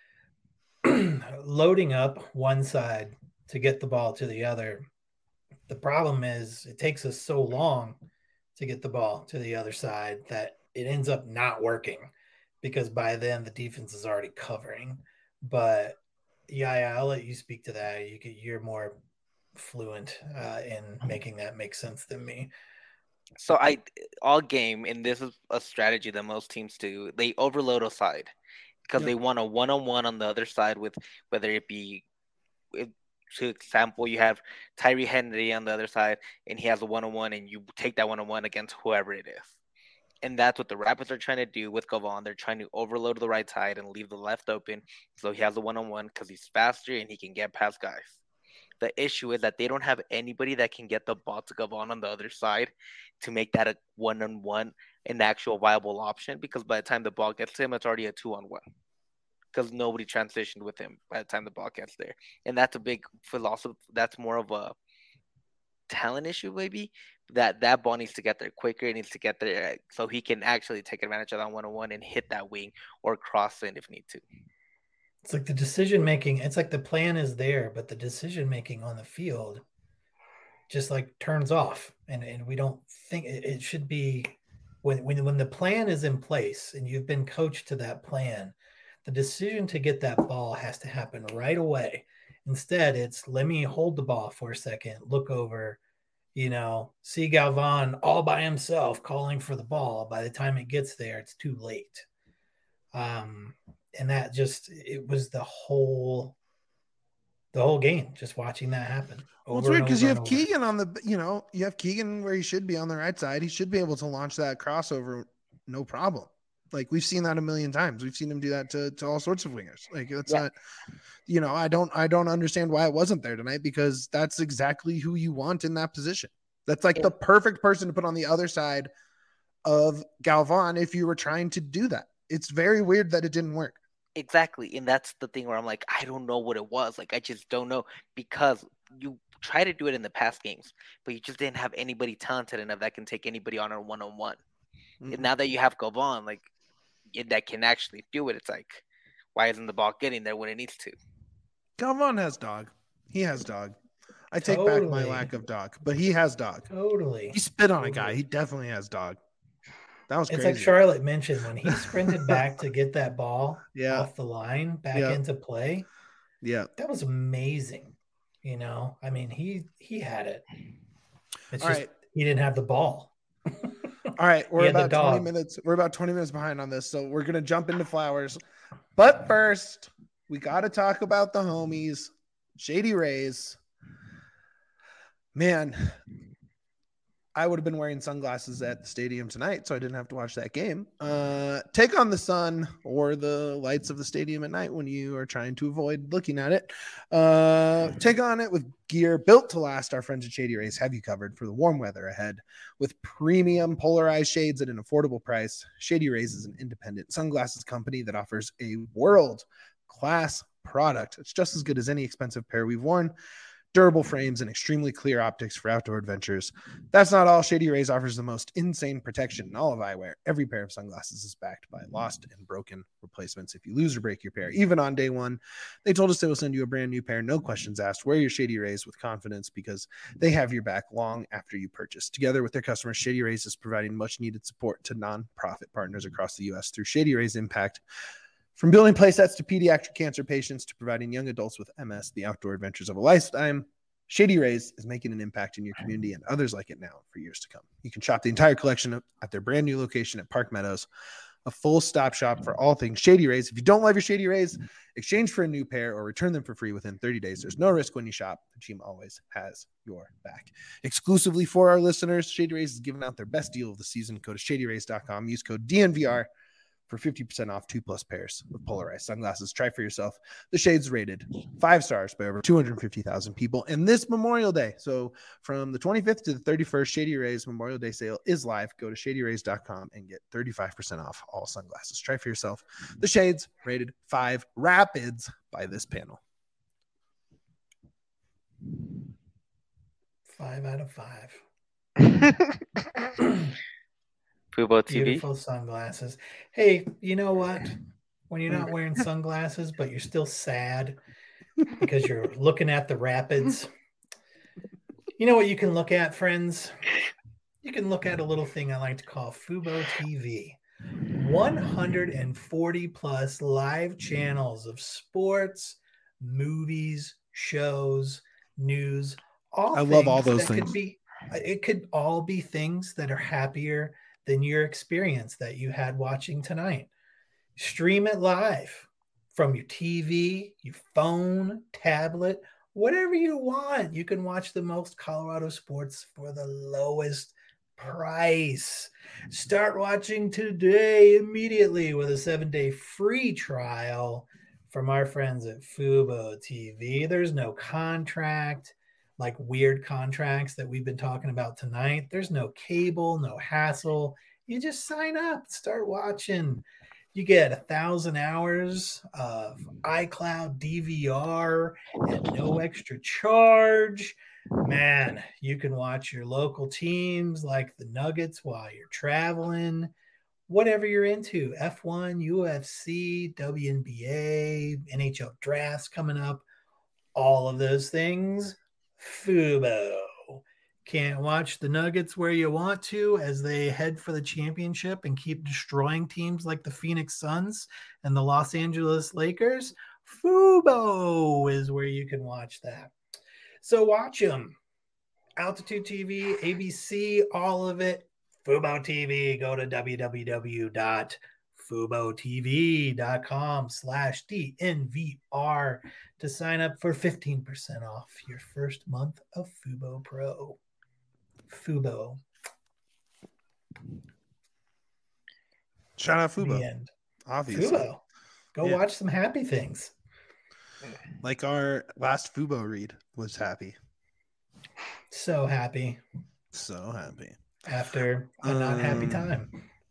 loading up one side to get the ball to the other, the problem is it takes us so long to get the ball to the other side that it ends up not working because by then the defense is already covering. But yeah, I'll let you speak to that. You're more fluent in making that make sense than me. So all game, and this is a strategy that most teams do, they overload a side because they want a one-on-one on the other side with whether it be, to example, you have Tyree Henry on the other side and he has a one-on-one and you take that one-on-one against whoever it is. And that's what the Rapids are trying to do with Gavon. They're trying to overload the right side and leave the left open so he has a one-on-one because he's faster and he can get past guys. The issue is that they don't have anybody that can get the ball to Gavon on the other side to make that a one-on-one, an actual viable option, because by the time the ball gets to him, it's already a 2-on-1 because nobody transitioned with him by the time the ball gets there. And that's a big philosophy. That's more of a talent issue, maybe, that ball needs to get there quicker. It needs to get there so he can actually take advantage of that one-on-one and hit that wing or cross in if need to. It's like the decision making. It's like the plan is there, but the decision making on the field just like turns off, and we don't think it should be when the plan is in place and you've been coached to that plan. The decision to get that ball has to happen right away. Instead, it's let me hold the ball for a second, look over, see Galvan all by himself calling for the ball. By the time it gets there, it's too late. And that it was the whole game, just watching that happen. Well, it's weird because you have Keegan on you have Keegan where he should be on the right side. He should be able to launch that crossover, no problem. Like, we've seen that a million times. We've seen him do that to all sorts of wingers. Like, that's not, I don't understand why it wasn't there tonight, because that's exactly who you want in that position. That's like the perfect person to put on the other side of Galvan if you were trying to do that. It's very weird that it didn't work. Exactly. And that's the thing where I'm like, I don't know what it was. Like, I just don't know, because you try to do it in the past games, but you just didn't have anybody talented enough that can take anybody on a one-on-one. Mm-hmm. And now that you have Galvan, like, that can actually do it, it's like, why isn't the ball getting there when it needs to? Galvan has dog. He has dog. I take back my lack of dog, but he has dog. Totally. He spit on a guy. He definitely has dog. That was crazy. It's like Charlotte mentioned, when he sprinted back to get that ball off the line back into play. Yeah. That was amazing. I mean, he had it. It's all just right. He didn't have the ball. All right, we're about 20 minutes. We're about 20 minutes behind on this, so we're gonna jump into Flowers. But first, we got to talk about the homies, Shady Rays. Man, I would have been wearing sunglasses at the stadium tonight, so I didn't have to watch that game. Take on the sun or the lights of the stadium at night when you are trying to avoid looking at it. Take on it with gear built to last. Our friends at Shady Rays have you covered for the warm weather ahead with premium polarized shades at an affordable price. Shady Rays is an independent sunglasses company that offers a world-class product. It's just as good as any expensive pair we've worn. Durable frames and extremely clear optics for outdoor adventures. That's not all. Shady Rays offers the most insane protection in all of eyewear. Every pair of sunglasses is backed by lost and broken replacements. If you lose or break your pair, even on day one, they told us they will send you a brand new pair. No questions asked. Wear your Shady Rays with confidence, because they have your back long after you purchase. Together with their customers, Shady Rays is providing much needed support to nonprofit partners across the U.S. through Shady Rays Impact. From building playsets to pediatric cancer patients to providing young adults with MS the outdoor adventures of a lifetime, Shady Rays is making an impact in your community and others like it now for years to come. You can shop the entire collection at their brand new location at Park Meadows, a full stop shop for all things Shady Rays. If you don't love your Shady Rays, exchange for a new pair or return them for free within 30 days. There's no risk when you shop. The team always has your back. Exclusively for our listeners, Shady Rays is giving out their best deal of the season. Go to shadyrays.com. Use code DNVR for 50% off 2+ pairs of polarized sunglasses. Try for yourself. The shades rated 5 stars by over 250,000 people. And this Memorial Day, so from the 25th to the 31st, Shady Rays Memorial Day sale is live. Go to shadyrays.com and get 35% off all sunglasses. Try for yourself. The shades rated 5 Rapids by this panel. 5 out of 5. Fubo TV. Beautiful sunglasses. Hey, you know what? When you're not wearing sunglasses, but you're still sad because you're looking at the Rapids, you know what you can look at, friends? You can look at a little thing I like to call Fubo TV. 140 plus live channels of sports, movies, shows, news. I love all those things. It could all be things that are happier than your experience that you had watching tonight. Stream it live from your TV, your phone, tablet, whatever you want. You can watch the most Colorado sports for the lowest price. Start watching today immediately with a 7-day free trial from our friends at Fubo TV. There's no contract, like weird contracts that we've been talking about tonight. There's no cable, no hassle. You just sign up, start watching. You get 1,000 hours of iCloud DVR at no extra charge. Man, you can watch your local teams like the Nuggets while you're traveling. Whatever you're into, F1, UFC, WNBA, NHL drafts coming up, all of those things. Fubo. Can't watch the Nuggets where you want to as they head for the championship and keep destroying teams like the Phoenix Suns and the Los Angeles Lakers? Fubo is where you can watch that. So watch them. Altitude TV, ABC, all of it. Fubo TV. Go to www.fubotv.com/DNVR to sign up for 15% off your first month of Fubo Pro. Fubo. Shout out The Fubo. end. Obviously. Fubo. Go Yeah. watch some happy things. Like our last Fubo read was happy. So happy So happy. after a not happy time.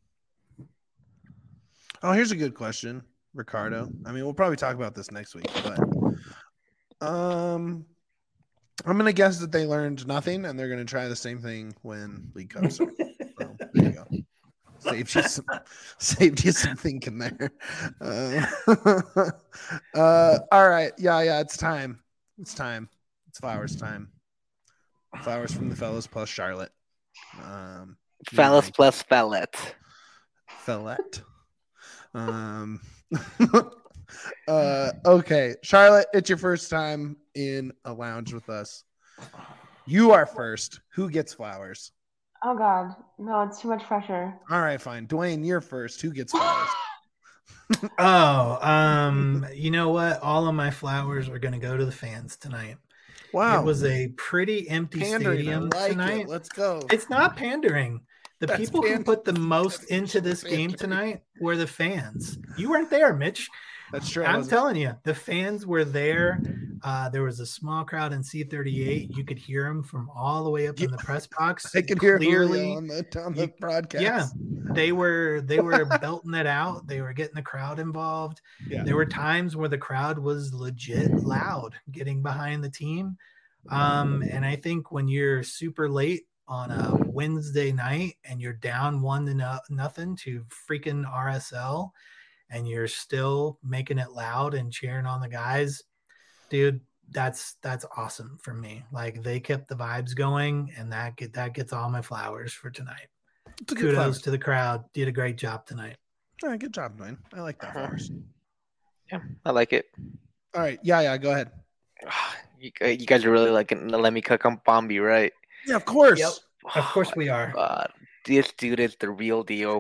Oh, here's a good question, Ricardo. I mean, we'll probably talk about this next week, but I'm gonna guess that they learned nothing and they're gonna try the same thing when League Cup starts. So there you go. Saved you some thinking there. All right. Yeah, it's time. It's Flowers time. Flowers from the fellas plus Charlotte. Fellas plus Fellette. Okay, Charlotte, it's your first time in a lounge with us. You are first. Who gets flowers? Oh God, no, it's too much pressure. All right, fine. Dwayne, you're first. Who gets flowers? You know what? All of my flowers are going to go to the fans tonight. Wow, It was a pretty empty pandering. stadium I like tonight. it. Let's go. It's not pandering. The That's people who put the most That's into this game pandering. tonight were the fans. You weren't there, Mitch. That's true. I'm telling you, the fans were there. There was a small crowd in C38. You could hear them from all the way up in the press box. I can hear clearly Julio on the broadcast. Yeah, they were belting it out. They were getting the crowd involved. Yeah. There were times where the crowd was legit loud, getting behind the team. And I think when you're super late on a Wednesday night and you're down 1-0 to freaking RSL, and you're still making it loud and cheering on the guys, dude, that's awesome for me. Like, they kept the vibes going, and that gets all my flowers for tonight. It's a good Kudos flowers. to the crowd. Did a great job tonight. All right, good job, Dwayne. I like that flowers. Yeah, I like it. All right, yeah, go ahead. You guys are really liking the Let Me Cook on Bombi, right? Yeah, of course. Yep. Of course we are. God, this dude is the real deal.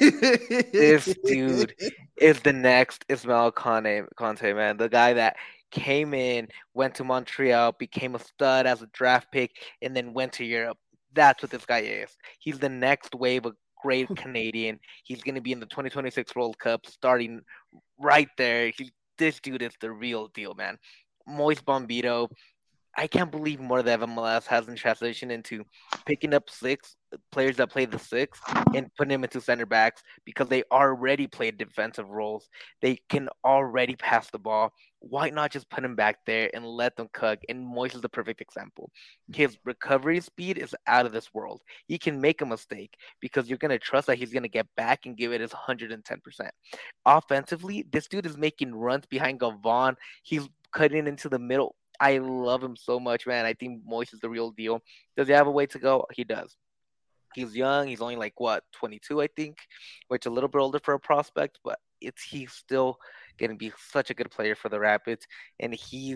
This dude is the next Ismail Conte, man. The guy that came in, went to Montreal, became a stud as a draft pick, and then went to Europe. That's what this guy is. He's the next wave of great Canadian. He's going to be in the 2026 World Cup starting right there. This dude is the real deal, man. Moise Bombito. I can't believe more that MLS hasn't transitioned into picking up six players that play the six and putting them into center backs, because they already play defensive roles. They can already pass the ball. Why not just put him back there and let them cook? And Moise is the perfect example. His recovery speed is out of this world. He can make a mistake because you're going to trust that he's going to get back and give it his 110%. Offensively, this dude is making runs behind Gavon. He's cutting into the middle. I love him so much, man. I think Moise is the real deal. Does he have a way to go? He does. He's young. He's only 22, I think, which is a little bit older for a prospect, but he's still going to be such a good player for the Rapids. And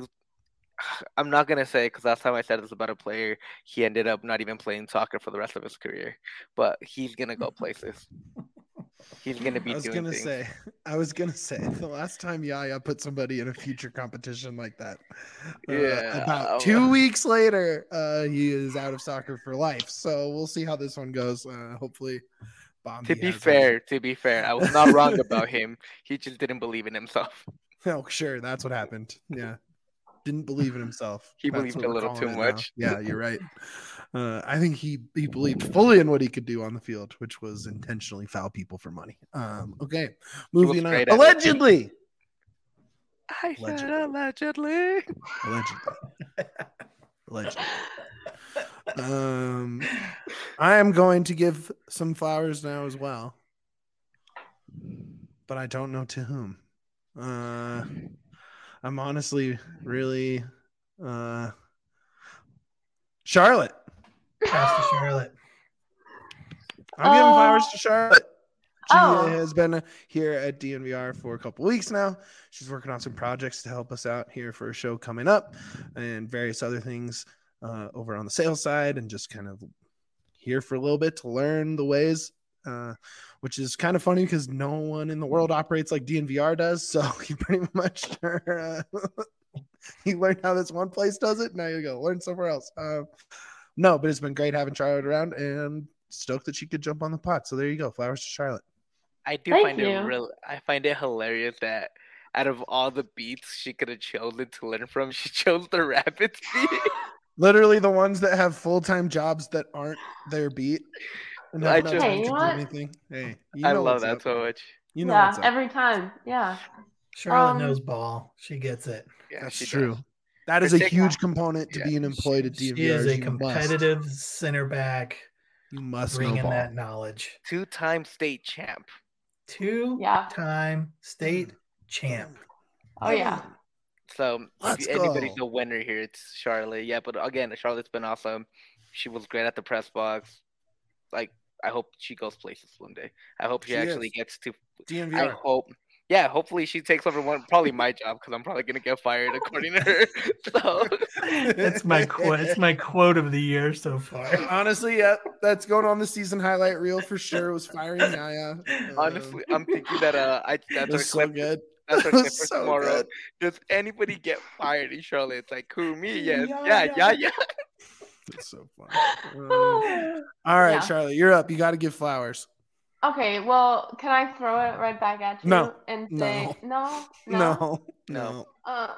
I'm not going to say, because last time I said this about a player, he ended up not even playing soccer for the rest of his career, but he's going to go places. He's going to be doing things. I was going to say, the last time Yaya put somebody in a future competition like that, about 2 weeks later, he is out of soccer for life. So we'll see how this one goes. Hopefully, Bombi To be fair, I was not wrong about him. He just didn't believe in himself. Oh, sure. That's what happened. Yeah. Didn't believe in himself. He That's believed what a we're little calling too it much. now. Yeah, you're right. I think he believed fully in what he could do on the field, which was intentionally foul people for money. Okay, moving on. great at it. Allegedly. I said allegedly. Allegedly. I am going to give some flowers now as well, but I don't know to whom. I'm honestly really Charlotte. Pass to Charlotte. I'm giving flowers to Charlotte. She Oh. has been here at DNVR for a couple weeks now. She's working on some projects to help us out here for a show coming up and various other things. over on the sales side and just kind of here for a little bit to learn the ways, which is kind of funny because no one in the world operates like DNVR does. So you pretty much you learned how this one place does it. Now you go learn somewhere else. No, but it's been great having Charlotte around and stoked that she could jump on the pot. So there you go. Flowers to Charlotte. I do Thank find you. it real. I find it hilarious that out of all the beats she could have chosen to learn from, she chose the Rapids beat. Literally the ones that have full-time jobs that aren't their beat. And I have no just- time Hey, to you do know what? anything. Hey, I love what's that up. so much. You know Yeah, what's up. every time. Yeah. Charlotte Um, knows ball. She gets it. Yeah, That's she true. does. That is a Particular- huge component to Yeah. being employed at She DNVR. is a You competitive center back, You must know bringing ball. that knowledge. 2-time state champ. Yeah. Two-time state champ. Oh yeah. So Let's if anybody's go. a winner here, it's Charlotte. Yeah, but again, Charlotte's been awesome. She was great at the press box. Like, I hope she goes places one day. I hope she She actually is. gets to. I DNVR. hope. Yeah, hopefully she takes over probably my job because I'm probably gonna get fired according to her. So That's my quote. It's my quote of the year so far. Honestly, yep. That's going on the season highlight reel for sure. It was firing Naya. honestly, I'm thinking that that's it our was so clip. good. That's our It clip was for so tomorrow. good. Does anybody get fired in Charlotte? It's like, who, me? Yes. Yeah, Yeah. It's so fun. All right, Yeah. Charlotte, you're up. You got to give flowers. Okay, well, can I throw it right back at you No. and say no? No.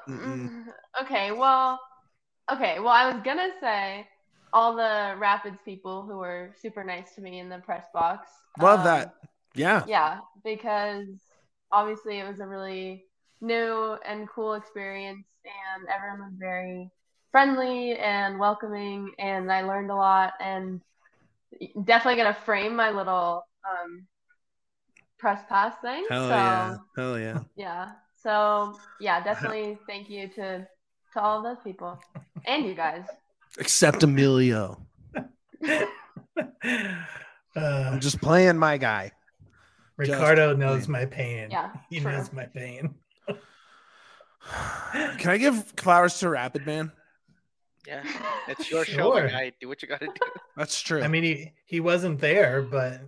Okay, well, I was gonna say all the Rapids people who were super nice to me in the press box. Love that. Yeah. Yeah, because obviously it was a really new and cool experience, and everyone was very friendly and welcoming, and I learned a lot, and definitely gonna frame my little press pass thing. Hell so yeah. Hell yeah. yeah. So yeah, definitely thank you to all those people and you guys. Except Emilio. I'm just playing my guy. Ricardo Just knows playing. my pain. Yeah, He true. knows my pain. Can I give flowers to Rapid Man? Yeah. It's your show, my Sure. guy. Do what you gotta do. That's true. I mean, he wasn't there, but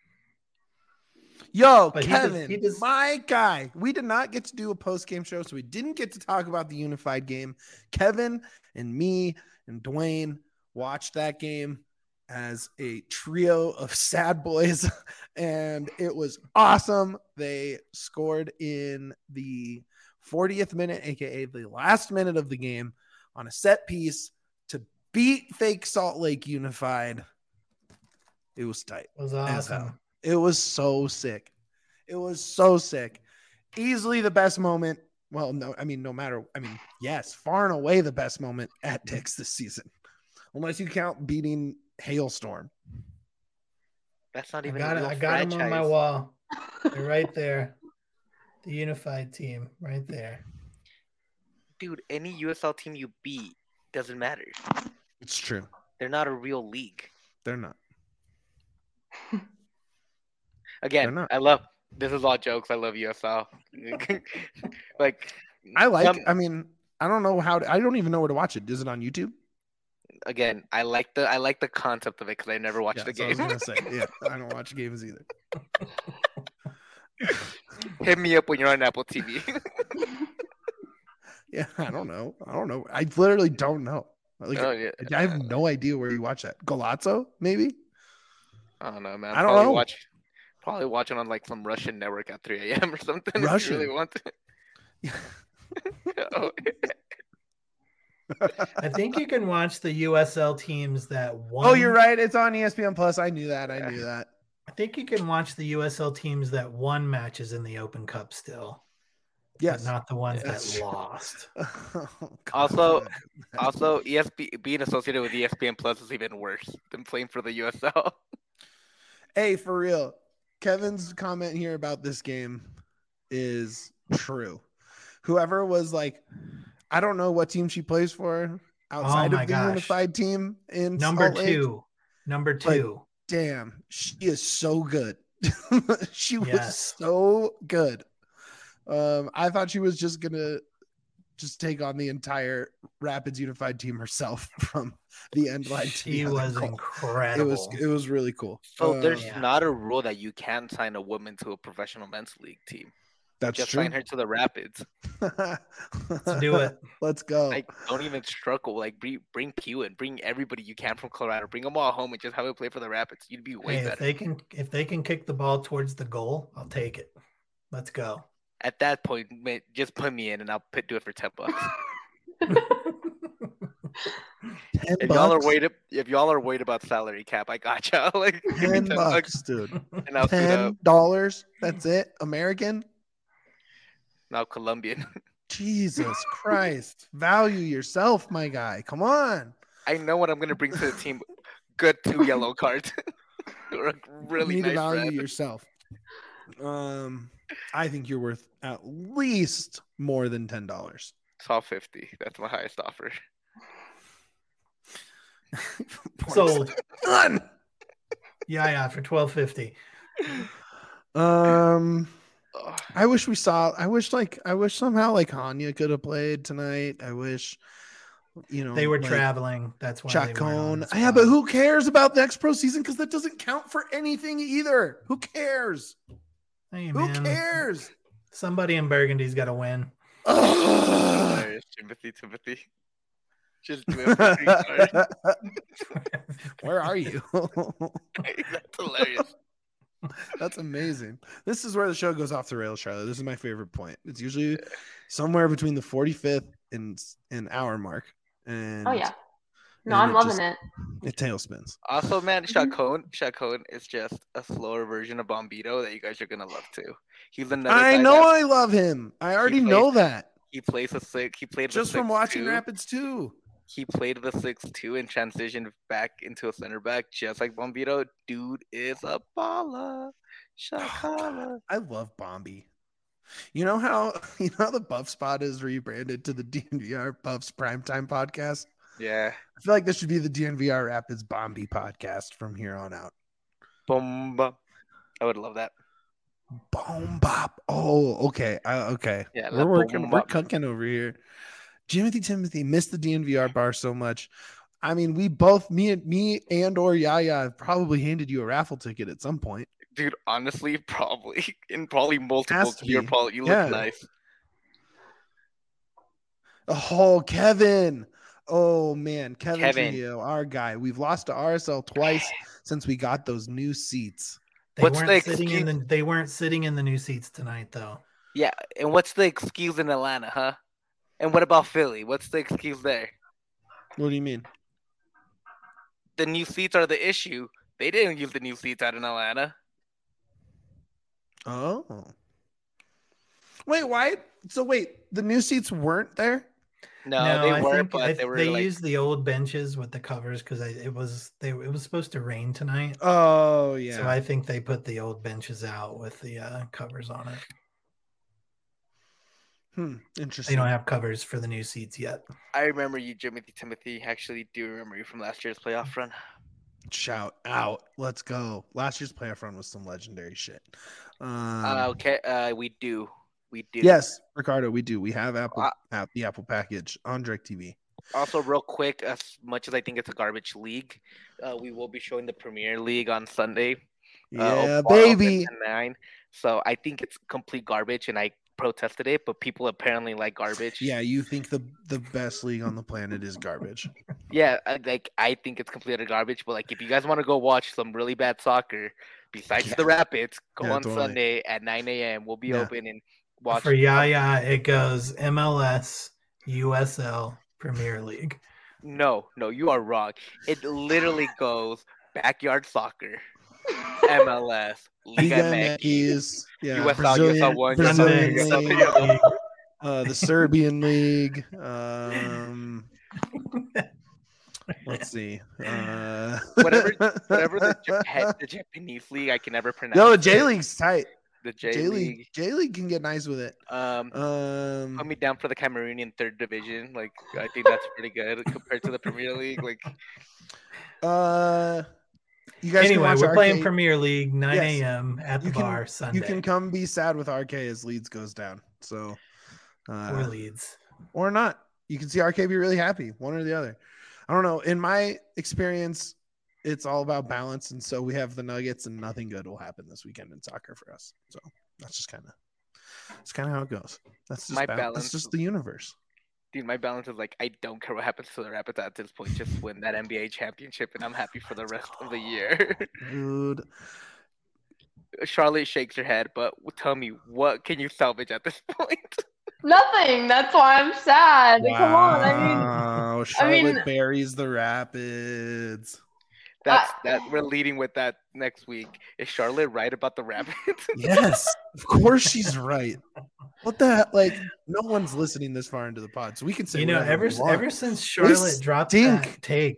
Yo, But Kevin, he does- my guy. We did not get to do a post-game show, so we didn't get to talk about the unified game. Kevin and me and Dwayne watched that game as a trio of sad boys, and it was awesome. They scored in the 40th minute, aka the last minute of the game, on a set piece to beat fake Salt Lake Unified. It was tight. it was as hell. awesome. It was so sick. It was so sick. Easily the best moment. Well, no, I mean, yes, far and away the best moment at Dick's this season. Unless you count beating Hailstorm. That's not I even got a it. real I got him on my franchise. wall. They're right there. The unified team, right there. Dude, any USL team you beat doesn't matter. It's true. They're not a real league. They're not. Again, They're not. I love this is all jokes. I love USL. Like I like, some- I mean, I don't know how to, I don't even know where to watch it. Is it on YouTube? again, I like the concept of it because I never watched Yeah, the that's what I game. was gonna say. Yeah, I don't watch games either. Hit me up when you're on Apple TV. Yeah, I don't know. I literally don't know. Like, Oh, yeah. I have no idea where you watch that. Golazzo, maybe? I don't know, man. I don't know. Probably watching on like some Russian network at 3 a.m. or something. Russian? If you really want to. Oh, I think you can watch the USL teams that won. Oh, you're right. It's on ESPN Plus. I knew that. I think you can watch the USL teams that won matches in the Open Cup still. Yes. But not the ones Yes. that lost. Oh, Also- God. Also, being associated with ESPN Plus is even worse than playing for the USL. Hey, for real. Kevin's comment here about this game is true. Whoever was like, I don't know what team she plays for outside my of the gosh. unified team in Number Salt Lake. Number two. Damn, she is so good. She was Yes. so good. I thought she was just gonna just take on the entire Rapids Unified team herself from the end line to She the other was goal. incredible. It was really cool. So there's Yeah. not a rule that you can't sign a woman to a professional men's league team. That's Just true. sign her to the Rapids. Let's do it. Let's go. Like, don't even struggle. Like, bring Pew in, bring everybody you can from Colorado, bring them all home, and just have it play for the Rapids. You'd be way Hey, better. if they can kick the ball towards the goal, I'll take it. Let's go. At that point, man, just put me in, and I'll do it for $10. If y'all are worried about salary cap, I gotcha. Like, give me $10, dude. and I'll suit up. $10. That's it. American. Now Colombian. Jesus Christ! Value yourself, my guy. Come on. I know what I'm gonna bring to the team. Good 2 yellow cards. Or a really You need nice to value red. yourself. I think you're worth at least more than $10. $12.50. That's my highest offer. Sold. Done. Yeah, for $12.50. Ugh. I wish somehow like Hanya could have played tonight. I wish, They were like, traveling. That's why they weren't on Chacon. the Yeah, squad. but who cares about next pro season? Because that doesn't count for anything either. Who cares? Hey, Who man. cares? Somebody in Burgundy's got to win. Ugh. Hilarious, Timothy. Just do it for 3 cards. Where are you? That's hilarious. That's amazing. This is where the show goes off the rails, Charlotte. This is my favorite point. It's usually somewhere between the 45th and hour mark. And Oh yeah. No, and I'm it loving just- it. It tailspins. Also, man, Chacon is just a slower version of Bombito that you guys are gonna love too. He's another. I guy know that- I love him. I already plays- know that. He plays a 6. He played Just the from watching 6-2. Rapids too. He played the 6-2 and transitioned back into a center back, just like Bombito. Dude is a baller. Shakala. I love Bombi. You know how the Buff Spot is rebranded to the DNVR Buffs Primetime Podcast? Yeah. I feel like this should be the DNVR Rapids Bombi podcast from here on out. Bomba. I would love that. Boom bop. Oh, okay. Okay. Yeah, we're that working. boom We're bop. cooking over here. Timothy missed the DNVR bar so much. I mean, we both, me and or Yaya, have probably handed you a raffle ticket at some point. Dude, honestly, probably. And probably multiple. Has to You be. look Yeah. nice. Oh, Kevin. Oh man, Kevin Kevin. Trujillo, our guy. We've lost to RSL twice since we got those new seats. They What's weren't the sitting in excuse? the they weren't sitting in the new seats tonight though. Yeah, and what's the excuse in Atlanta, huh? And what about Philly? What's the excuse there? What do you mean? The new seats are the issue. They didn't use the new seats out in Atlanta. Oh. Wait, why? So wait, the new seats weren't there? No, they I were, think but they were they like, used the old benches with the covers because it was supposed to rain tonight. Oh yeah. So I think they put the old benches out with the covers on it. They Interesting. don't have covers for the new seats yet. I remember you, Timothy. Actually, do remember you from last year's playoff run. Shout out. Let's go. Last year's playoff run was some legendary shit. Okay, we do. Yes, Ricardo, we do. We have the Apple package on DirecTV. Also, real quick, as much as I think it's a garbage league, we will be showing the Premier League on Sunday. Yeah, Open baby. to 9. So I think it's complete garbage, and I protested it, but people apparently like garbage. Yeah, you think the best league on the planet is garbage. Yeah, I think it's completely garbage. But if you guys want to go watch some really bad soccer, besides the Rapids, go on totally. Sunday at 9 a.m. We'll be open and watch. For Yaya, it goes MLS, USL, Premier League. No, you are wrong. It literally goes backyard soccer, MLS, Liga MX, MX, yeah, USL, Brazilian, USL 1, Brazilian USL league, 2. the Serbian league. Let's see. whatever the Japanese league I can never pronounce. No, J League's tight. The J League. J League can get nice with it. Put me down for the Cameroonian third division. I think that's pretty good compared to the Premier League. You guys can Anyway, watch we're RK. playing Premier League 9 Yes. a.m. at the You can- bar Sunday. You can come be sad with RK as Leeds goes down. So Poor Leeds. or not. You can see RK be really happy, one or the other. I don't know. In my experience, it's all about balance, and so we have the Nuggets, and nothing good will happen this weekend in soccer for us. So that's just kind of how it goes. That's just My balance. That's just the universe. Dude, my balance is like, I don't care what happens to the Rapids at this point. Just win that NBA championship, and I'm happy for the rest of the year. Dude. Charlotte shakes her head, but tell me, what can you salvage at this point? Nothing. That's why I'm sad. Wow. Come on. Charlotte buries the Rapids. That we're leading with that next week. Is Charlotte right about the Rapids? Yes, of course she's right. What the hell? Like, no one's listening this far into the pod, so we can say, ever since Charlotte dropped that take,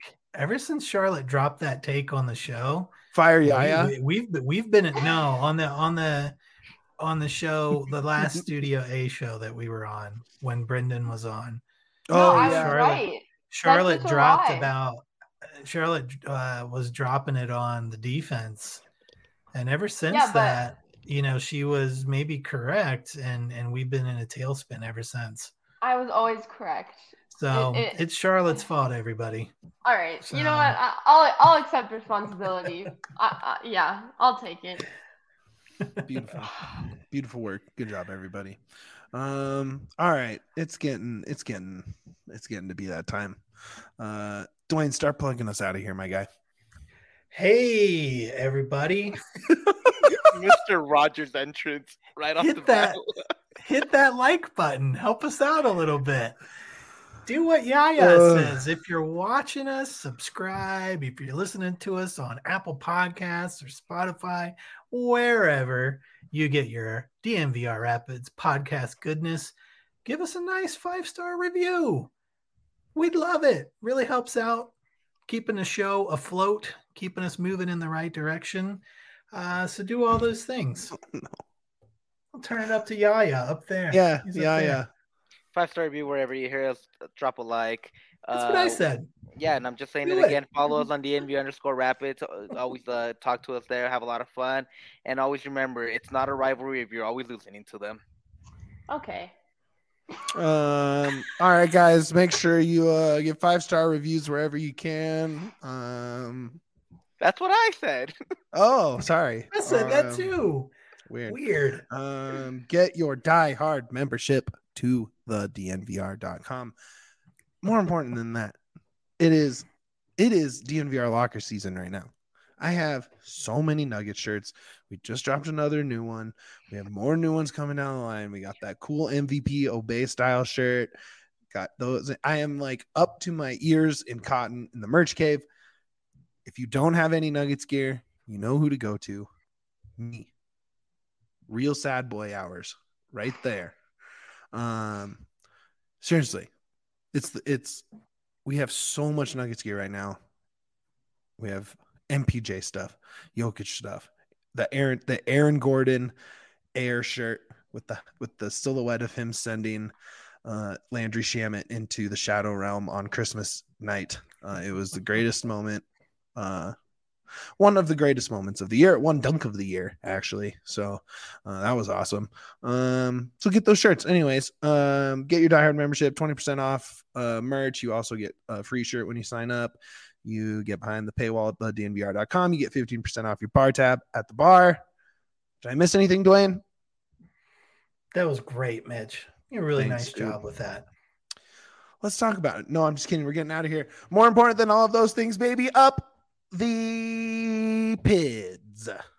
on the show, fire Yaya. We've been on the show, the last Studio A show that we were on when Brendan was on. Right. Charlotte was dropping it on the defense, and ever since that, she was maybe correct, and we've been in a tailspin ever since. I was always correct. So it's Charlotte's fault, everybody. All right, so. You know what? I'll accept responsibility. Yeah, I'll take it. Beautiful work. Good job, everybody. All right, it's getting to be that time. Dwayne, start plugging us out of here, my guy. Hey, everybody. Mr. Rogers' entrance right off the bat. Hit that like button. Help us out a little bit. Do what Yaya says. If you're watching us, subscribe. If you're listening to us on Apple Podcasts or Spotify, wherever you get your DNVR Rapids podcast goodness, give us a nice 5-star review. We'd love it. Really helps out keeping the show afloat, keeping us moving in the right direction. So do all those things. I'll turn it up to Yaya up there. Yeah, Yaya. 5-star review wherever you hear us. Drop a like. That's what I said. Yeah, and I'm just saying it again. Follow us on DNV_Rapids. Always talk to us there. Have a lot of fun. And always remember, it's not a rivalry if you're always listening to them. Okay. All right, guys. Make sure you give 5-star reviews wherever you can. That's what I said. Oh, sorry. I said that too. Weird. Get your Die Hard membership to the DNVR.com. More important than that, it is DNVR locker season right now. I have so many Nugget shirts. We just dropped another new one. We have more new ones coming down the line. We got that cool MVP Obey style shirt. Got those. I am like up to my ears in cotton in the merch cave. If you don't have any Nuggets gear, you know who to go to. Me. Real sad boy hours right there. Seriously, we have so much Nuggets gear right now. We have MPJ stuff, Jokic stuff, the Aaron Gordon Air shirt with the silhouette of him sending Landry Shamet into the Shadow Realm on Christmas night. It was the greatest moment. One of the greatest moments of the year, one dunk of the year, actually. So that was awesome. So get those shirts. Anyways, get your Die Hard membership, 20% off merch. You also get a free shirt when you sign up. You get behind the paywall at thednvr.com. You get 15% off your bar tab at the bar. Did I miss anything, Dwayne? That was great, Mitch. You did a really nice job with that. Let's talk about it. No, I'm just kidding. We're getting out of here. More important than all of those things, baby, up the PIDs.